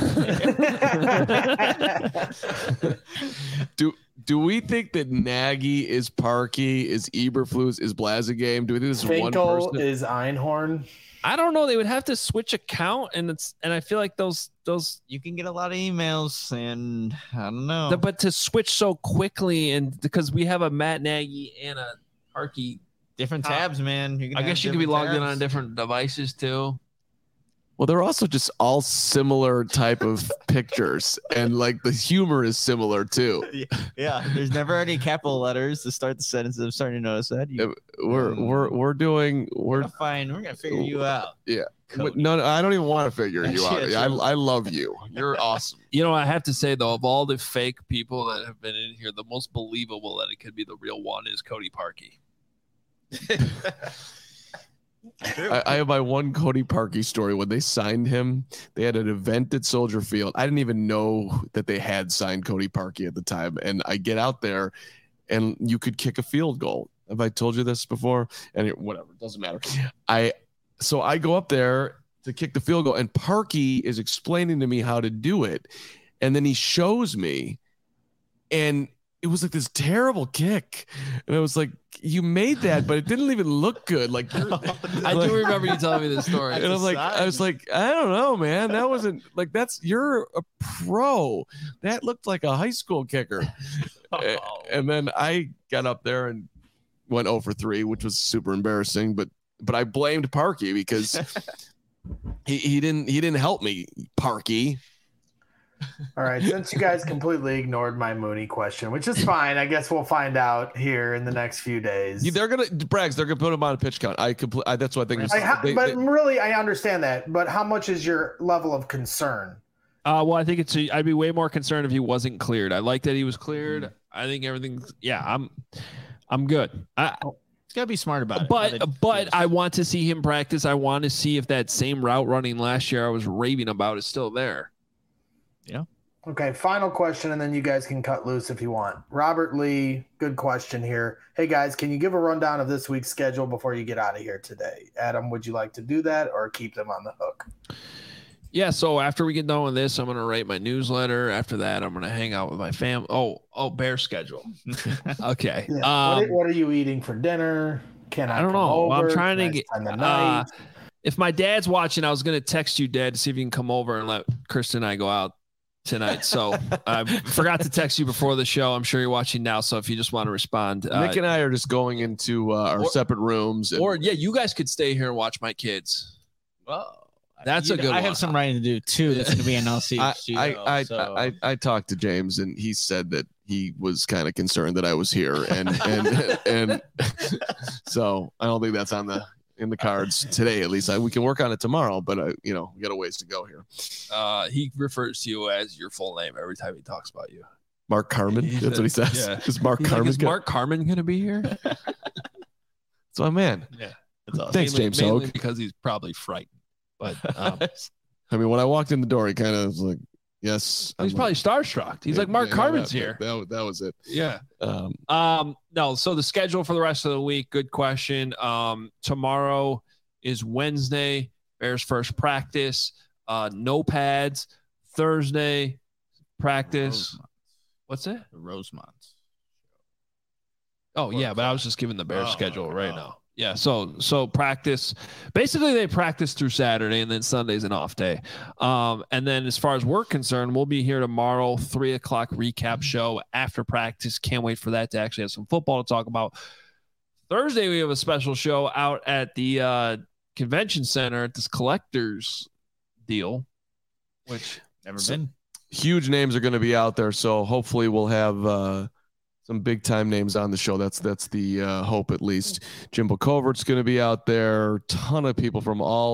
[SPEAKER 2] Do we think that Nagy is Parkey, is Eberflus, is Blazegame? Do we think this is one person?
[SPEAKER 4] Is Einhorn?
[SPEAKER 1] I don't know. They would have to switch account, and I feel like those
[SPEAKER 3] you can get a lot of emails, and I don't know.
[SPEAKER 1] But to switch so quickly, and because we have a Matt Nagy and a Parkey,
[SPEAKER 3] different tabs, man.
[SPEAKER 1] I guess you could be logged in on different devices too.
[SPEAKER 2] Well, they're also just all similar type of pictures, and like the humor is similar too.
[SPEAKER 3] Yeah, there's never any capital letters to start the sentence. I'm starting to notice that.
[SPEAKER 2] We're
[SPEAKER 3] fine. We're gonna figure you out.
[SPEAKER 2] Yeah. No, I don't even want to figure you out. I love you. You're awesome.
[SPEAKER 1] I have to say though, of all the fake people that have been in here, the most believable that it could be the real one is Cody Parkey.
[SPEAKER 2] I have my one Cody Parkey story. When they signed him, they had an event at Soldier Field. I didn't even know that they had signed Cody Parkey at the time. And I get out there, and you could kick a field goal. Have I told you this before? And whatever, it doesn't matter. So I go up there to kick the field goal, and Parkey is explaining to me how to do it. And then he shows me, and it was like this terrible kick. And I was like, you made that, but it didn't even look good. Like,
[SPEAKER 1] I do remember you telling me this story.
[SPEAKER 2] And I was like, I don't know, man. That wasn't like, you're a pro. That looked like a high school kicker. And then I got up there and went 0 for 3, which was super embarrassing. But I blamed Parkey because he didn't help me, Parkey.
[SPEAKER 4] All right, since you guys completely ignored my Mooney question, which is fine, I guess we'll find out here in the next few days.
[SPEAKER 2] They're gonna put him on a pitch count. That's what I think.
[SPEAKER 4] Really, I understand that. But how much is your level of concern?
[SPEAKER 1] Well, I think I'd be way more concerned if he wasn't cleared. I like that he was cleared. I think everything's. Yeah, I'm good.
[SPEAKER 3] It's gotta be smart about it.
[SPEAKER 1] But I want to see him practice. I want to see if that same route running last year I was raving about is still there.
[SPEAKER 3] Yeah.
[SPEAKER 4] Okay, final question, and then you guys can cut loose if you want. Robert Lee, good question here. Hey, guys, can you give a rundown of this week's schedule before you get out of here today? Adam, would you like to do that or keep them on the hook?
[SPEAKER 1] Yeah, so after we get done with this, I'm going to write my newsletter. After that, I'm going to hang out with my family. Oh, bear schedule. Okay.
[SPEAKER 4] Yeah. What are you eating for dinner? I don't know.
[SPEAKER 1] Well, I'm trying to get if my dad's watching, I was going to text you, Dad, to see if you can come over and let Kristen and I go out tonight. So I forgot to text you before the show. I'm sure you're watching now. So if you just want to respond,
[SPEAKER 2] Nick and I are just going into our separate rooms.
[SPEAKER 1] You guys could stay here and watch my kids.
[SPEAKER 3] Well,
[SPEAKER 1] that's a good one.
[SPEAKER 3] I have some writing to do too. That's going to be an LC.
[SPEAKER 2] I talked to James, and he said that he was kind of concerned that I was here, and so I don't think that's in the cards today. At least we can work on it tomorrow, but we got a ways to go here.
[SPEAKER 1] He refers to you as your full name every time he talks about you.
[SPEAKER 2] Mark Carman. That's what he says.
[SPEAKER 1] Yeah.
[SPEAKER 2] Is Mark
[SPEAKER 1] He's
[SPEAKER 2] Carman?
[SPEAKER 1] like, is Mark Carman going to be here?
[SPEAKER 2] That's my man.
[SPEAKER 1] Yeah.
[SPEAKER 3] That's awesome.
[SPEAKER 2] Thanks, James
[SPEAKER 1] mainly
[SPEAKER 2] Hogue.
[SPEAKER 1] because he's probably frightened. But
[SPEAKER 2] I mean, when I walked in the door, he kind of was like, yes.
[SPEAKER 1] he's probably starstruck. He's like, Mark Carman's here.
[SPEAKER 2] That was it.
[SPEAKER 1] Yeah. No. So the schedule for the rest of the week. Good question. Tomorrow is Wednesday. Bears first practice. No pads. Thursday practice. What's it?
[SPEAKER 3] The Rosemonts.
[SPEAKER 1] Oh yeah, but I was just giving the Bears schedule right now. Yeah, so practice. Basically, they practice through Saturday, and then Sunday's an off day. And then as far as we're concerned, we'll be here tomorrow, 3:00 recap show after practice. Can't wait for that to actually have some football to talk about. Thursday, we have a special show out at the convention center at this collector's deal, which
[SPEAKER 3] Never been.
[SPEAKER 2] Huge names are going to be out there, so hopefully we'll have some big time names on the show. That's the hope, at least. Jimbo Covert's going to be out there. A ton of people from all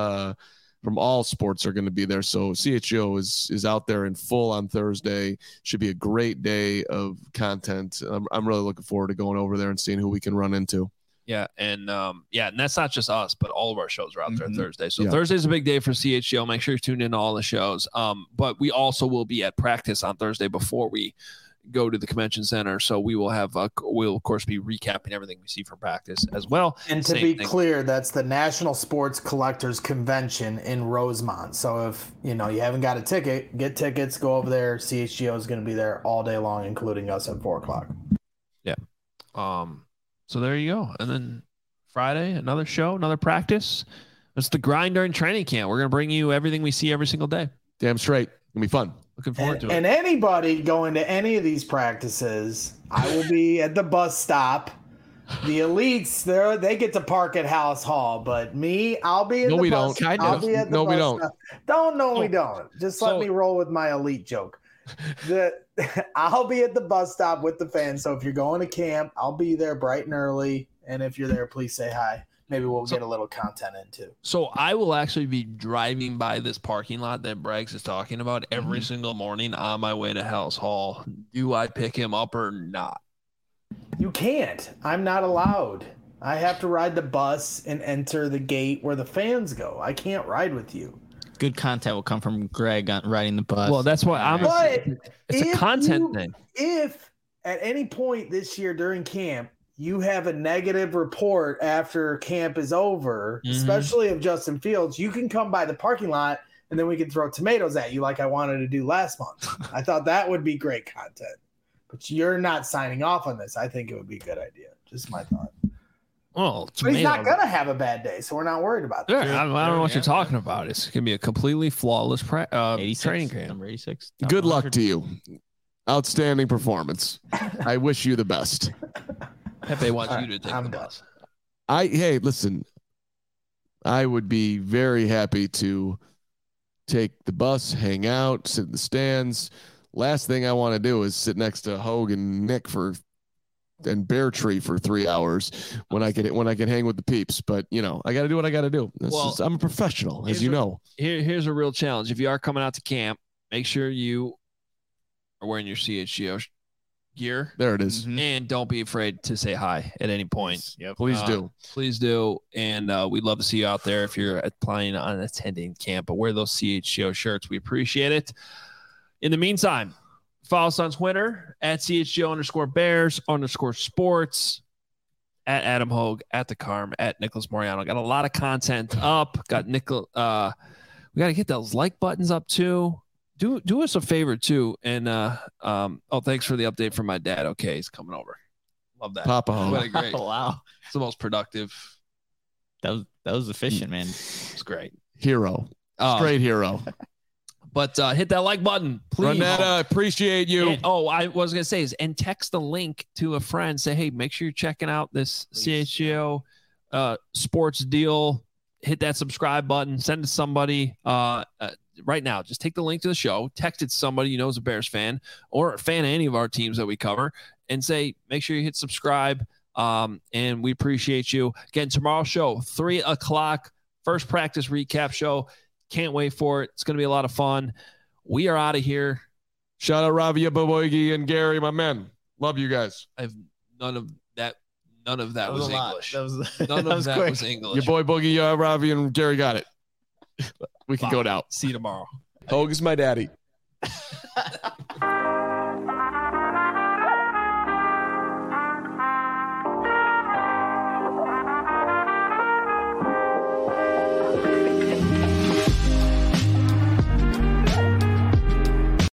[SPEAKER 2] sports are going to be there. So CHGO is out there in full on Thursday. Should be a great day of content. I'm really looking forward to going over there and seeing who we can run into.
[SPEAKER 1] Yeah, and that's not just us, but all of our shows are out there Thursday. So
[SPEAKER 2] Yeah.
[SPEAKER 1] Thursday's a big day for CHGO. Make sure you tune in to all the shows. But we also will be at practice on Thursday before we go to the convention center. So we will have we'll of course be recapping everything we see from practice as well.
[SPEAKER 4] And to be clear, that's the National Sports Collectors Convention in Rosemont. So if you haven't got a ticket, get tickets, go over there. CHGO is going to be there all day long, including us at 4:00.
[SPEAKER 1] Yeah. So there you go. And then Friday, another show, another practice. It's the grind during training camp. We're going to bring you everything we see every single day.
[SPEAKER 2] Damn straight. It'll be fun.
[SPEAKER 1] Looking forward to it.
[SPEAKER 4] And anybody going to any of these practices, I will be at the bus stop. The elites, they get to park at House Hall, but me, I'll be in the bus. I'll be at the bus stop. We don't. Just let me roll with my elite joke. I'll be at the bus stop with the fans. So if you're going to camp, I'll be there bright and early. And if you're there, please say hi. Maybe we'll get a little content in too.
[SPEAKER 1] So I will actually be driving by this parking lot that Braggs is talking about every single morning on my way to House Hall. Do I pick him up or not?
[SPEAKER 4] You can't. I'm not allowed. I have to ride the bus and enter the gate where the fans go. I can't ride with you.
[SPEAKER 3] Good content will come from Greg on riding the bus.
[SPEAKER 1] Well, that's why it's a content thing.
[SPEAKER 4] If at any point this year during camp you have a negative report after camp is over, especially of Justin Fields, you can come by the parking lot and then we can throw tomatoes at you like I wanted to do last month. I thought that would be great content. But you're not signing off on this. I think it would be a good idea. Just my thought.
[SPEAKER 1] Well,
[SPEAKER 4] but he's not going to have a bad day, so we're not worried about that.
[SPEAKER 1] I don't know what you're talking about. It's going to be a completely flawless training camp.
[SPEAKER 3] Number 86.
[SPEAKER 2] Good luck to you. Outstanding performance. I wish you the best.
[SPEAKER 1] Pepe wants you to take the bus.
[SPEAKER 2] Hey, listen. I would be very happy to take the bus, hang out, sit in the stands. Last thing I want to do is sit next to Hogue and Nick and Bear Tree for 3 hours when I can hang with the peeps. But I got to do what I got to do. I'm a professional, as you know.
[SPEAKER 1] Here's a real challenge. If you are coming out to camp, make sure you are wearing your CHGO gear.
[SPEAKER 2] There it is.
[SPEAKER 1] And don't be afraid to say hi at any point.
[SPEAKER 3] Yep.
[SPEAKER 2] Please do.
[SPEAKER 1] Please do. And we'd love to see you out there if you're planning on attending camp. But wear those CHGO shirts. We appreciate it. In the meantime, follow us on Twitter at CHGO_Bears_sports, at Adam Hogue, at the Carm, at Nicholas Moriano. Got a lot of content up. Got we got to get those like buttons up too. Do us a favor too. And thanks for the update from my dad. Okay, he's coming over. Love that.
[SPEAKER 2] Papa Hogue.
[SPEAKER 1] What a great.
[SPEAKER 3] Wow.
[SPEAKER 1] It's the most productive.
[SPEAKER 3] That was efficient, man.
[SPEAKER 1] It's great.
[SPEAKER 2] Hero. Straight hero.
[SPEAKER 1] But hit that like button, please.
[SPEAKER 2] Renetta, appreciate you.
[SPEAKER 1] And, I was going to say and text the link to a friend. Say, hey, make sure you're checking out this CHGO sports deal. Hit that subscribe button. Send it to somebody right now. Just take the link to the show. Text it to somebody you know is a Bears fan or a fan of any of our teams that we cover. And say, make sure you hit subscribe. And we appreciate you. Again, tomorrow's show, 3:00, first practice recap show. Can't wait for it. It's going to be a lot of fun. We are out of here.
[SPEAKER 2] Shout out Ravi Boboigi and Gary, my men. Love you guys.
[SPEAKER 1] I have none of that. None of that was English.
[SPEAKER 3] None
[SPEAKER 1] of that was English.
[SPEAKER 2] Your boy Boogie, Ravi, and Gary got it. We can go now.
[SPEAKER 1] See you tomorrow.
[SPEAKER 2] Hogan's my daddy.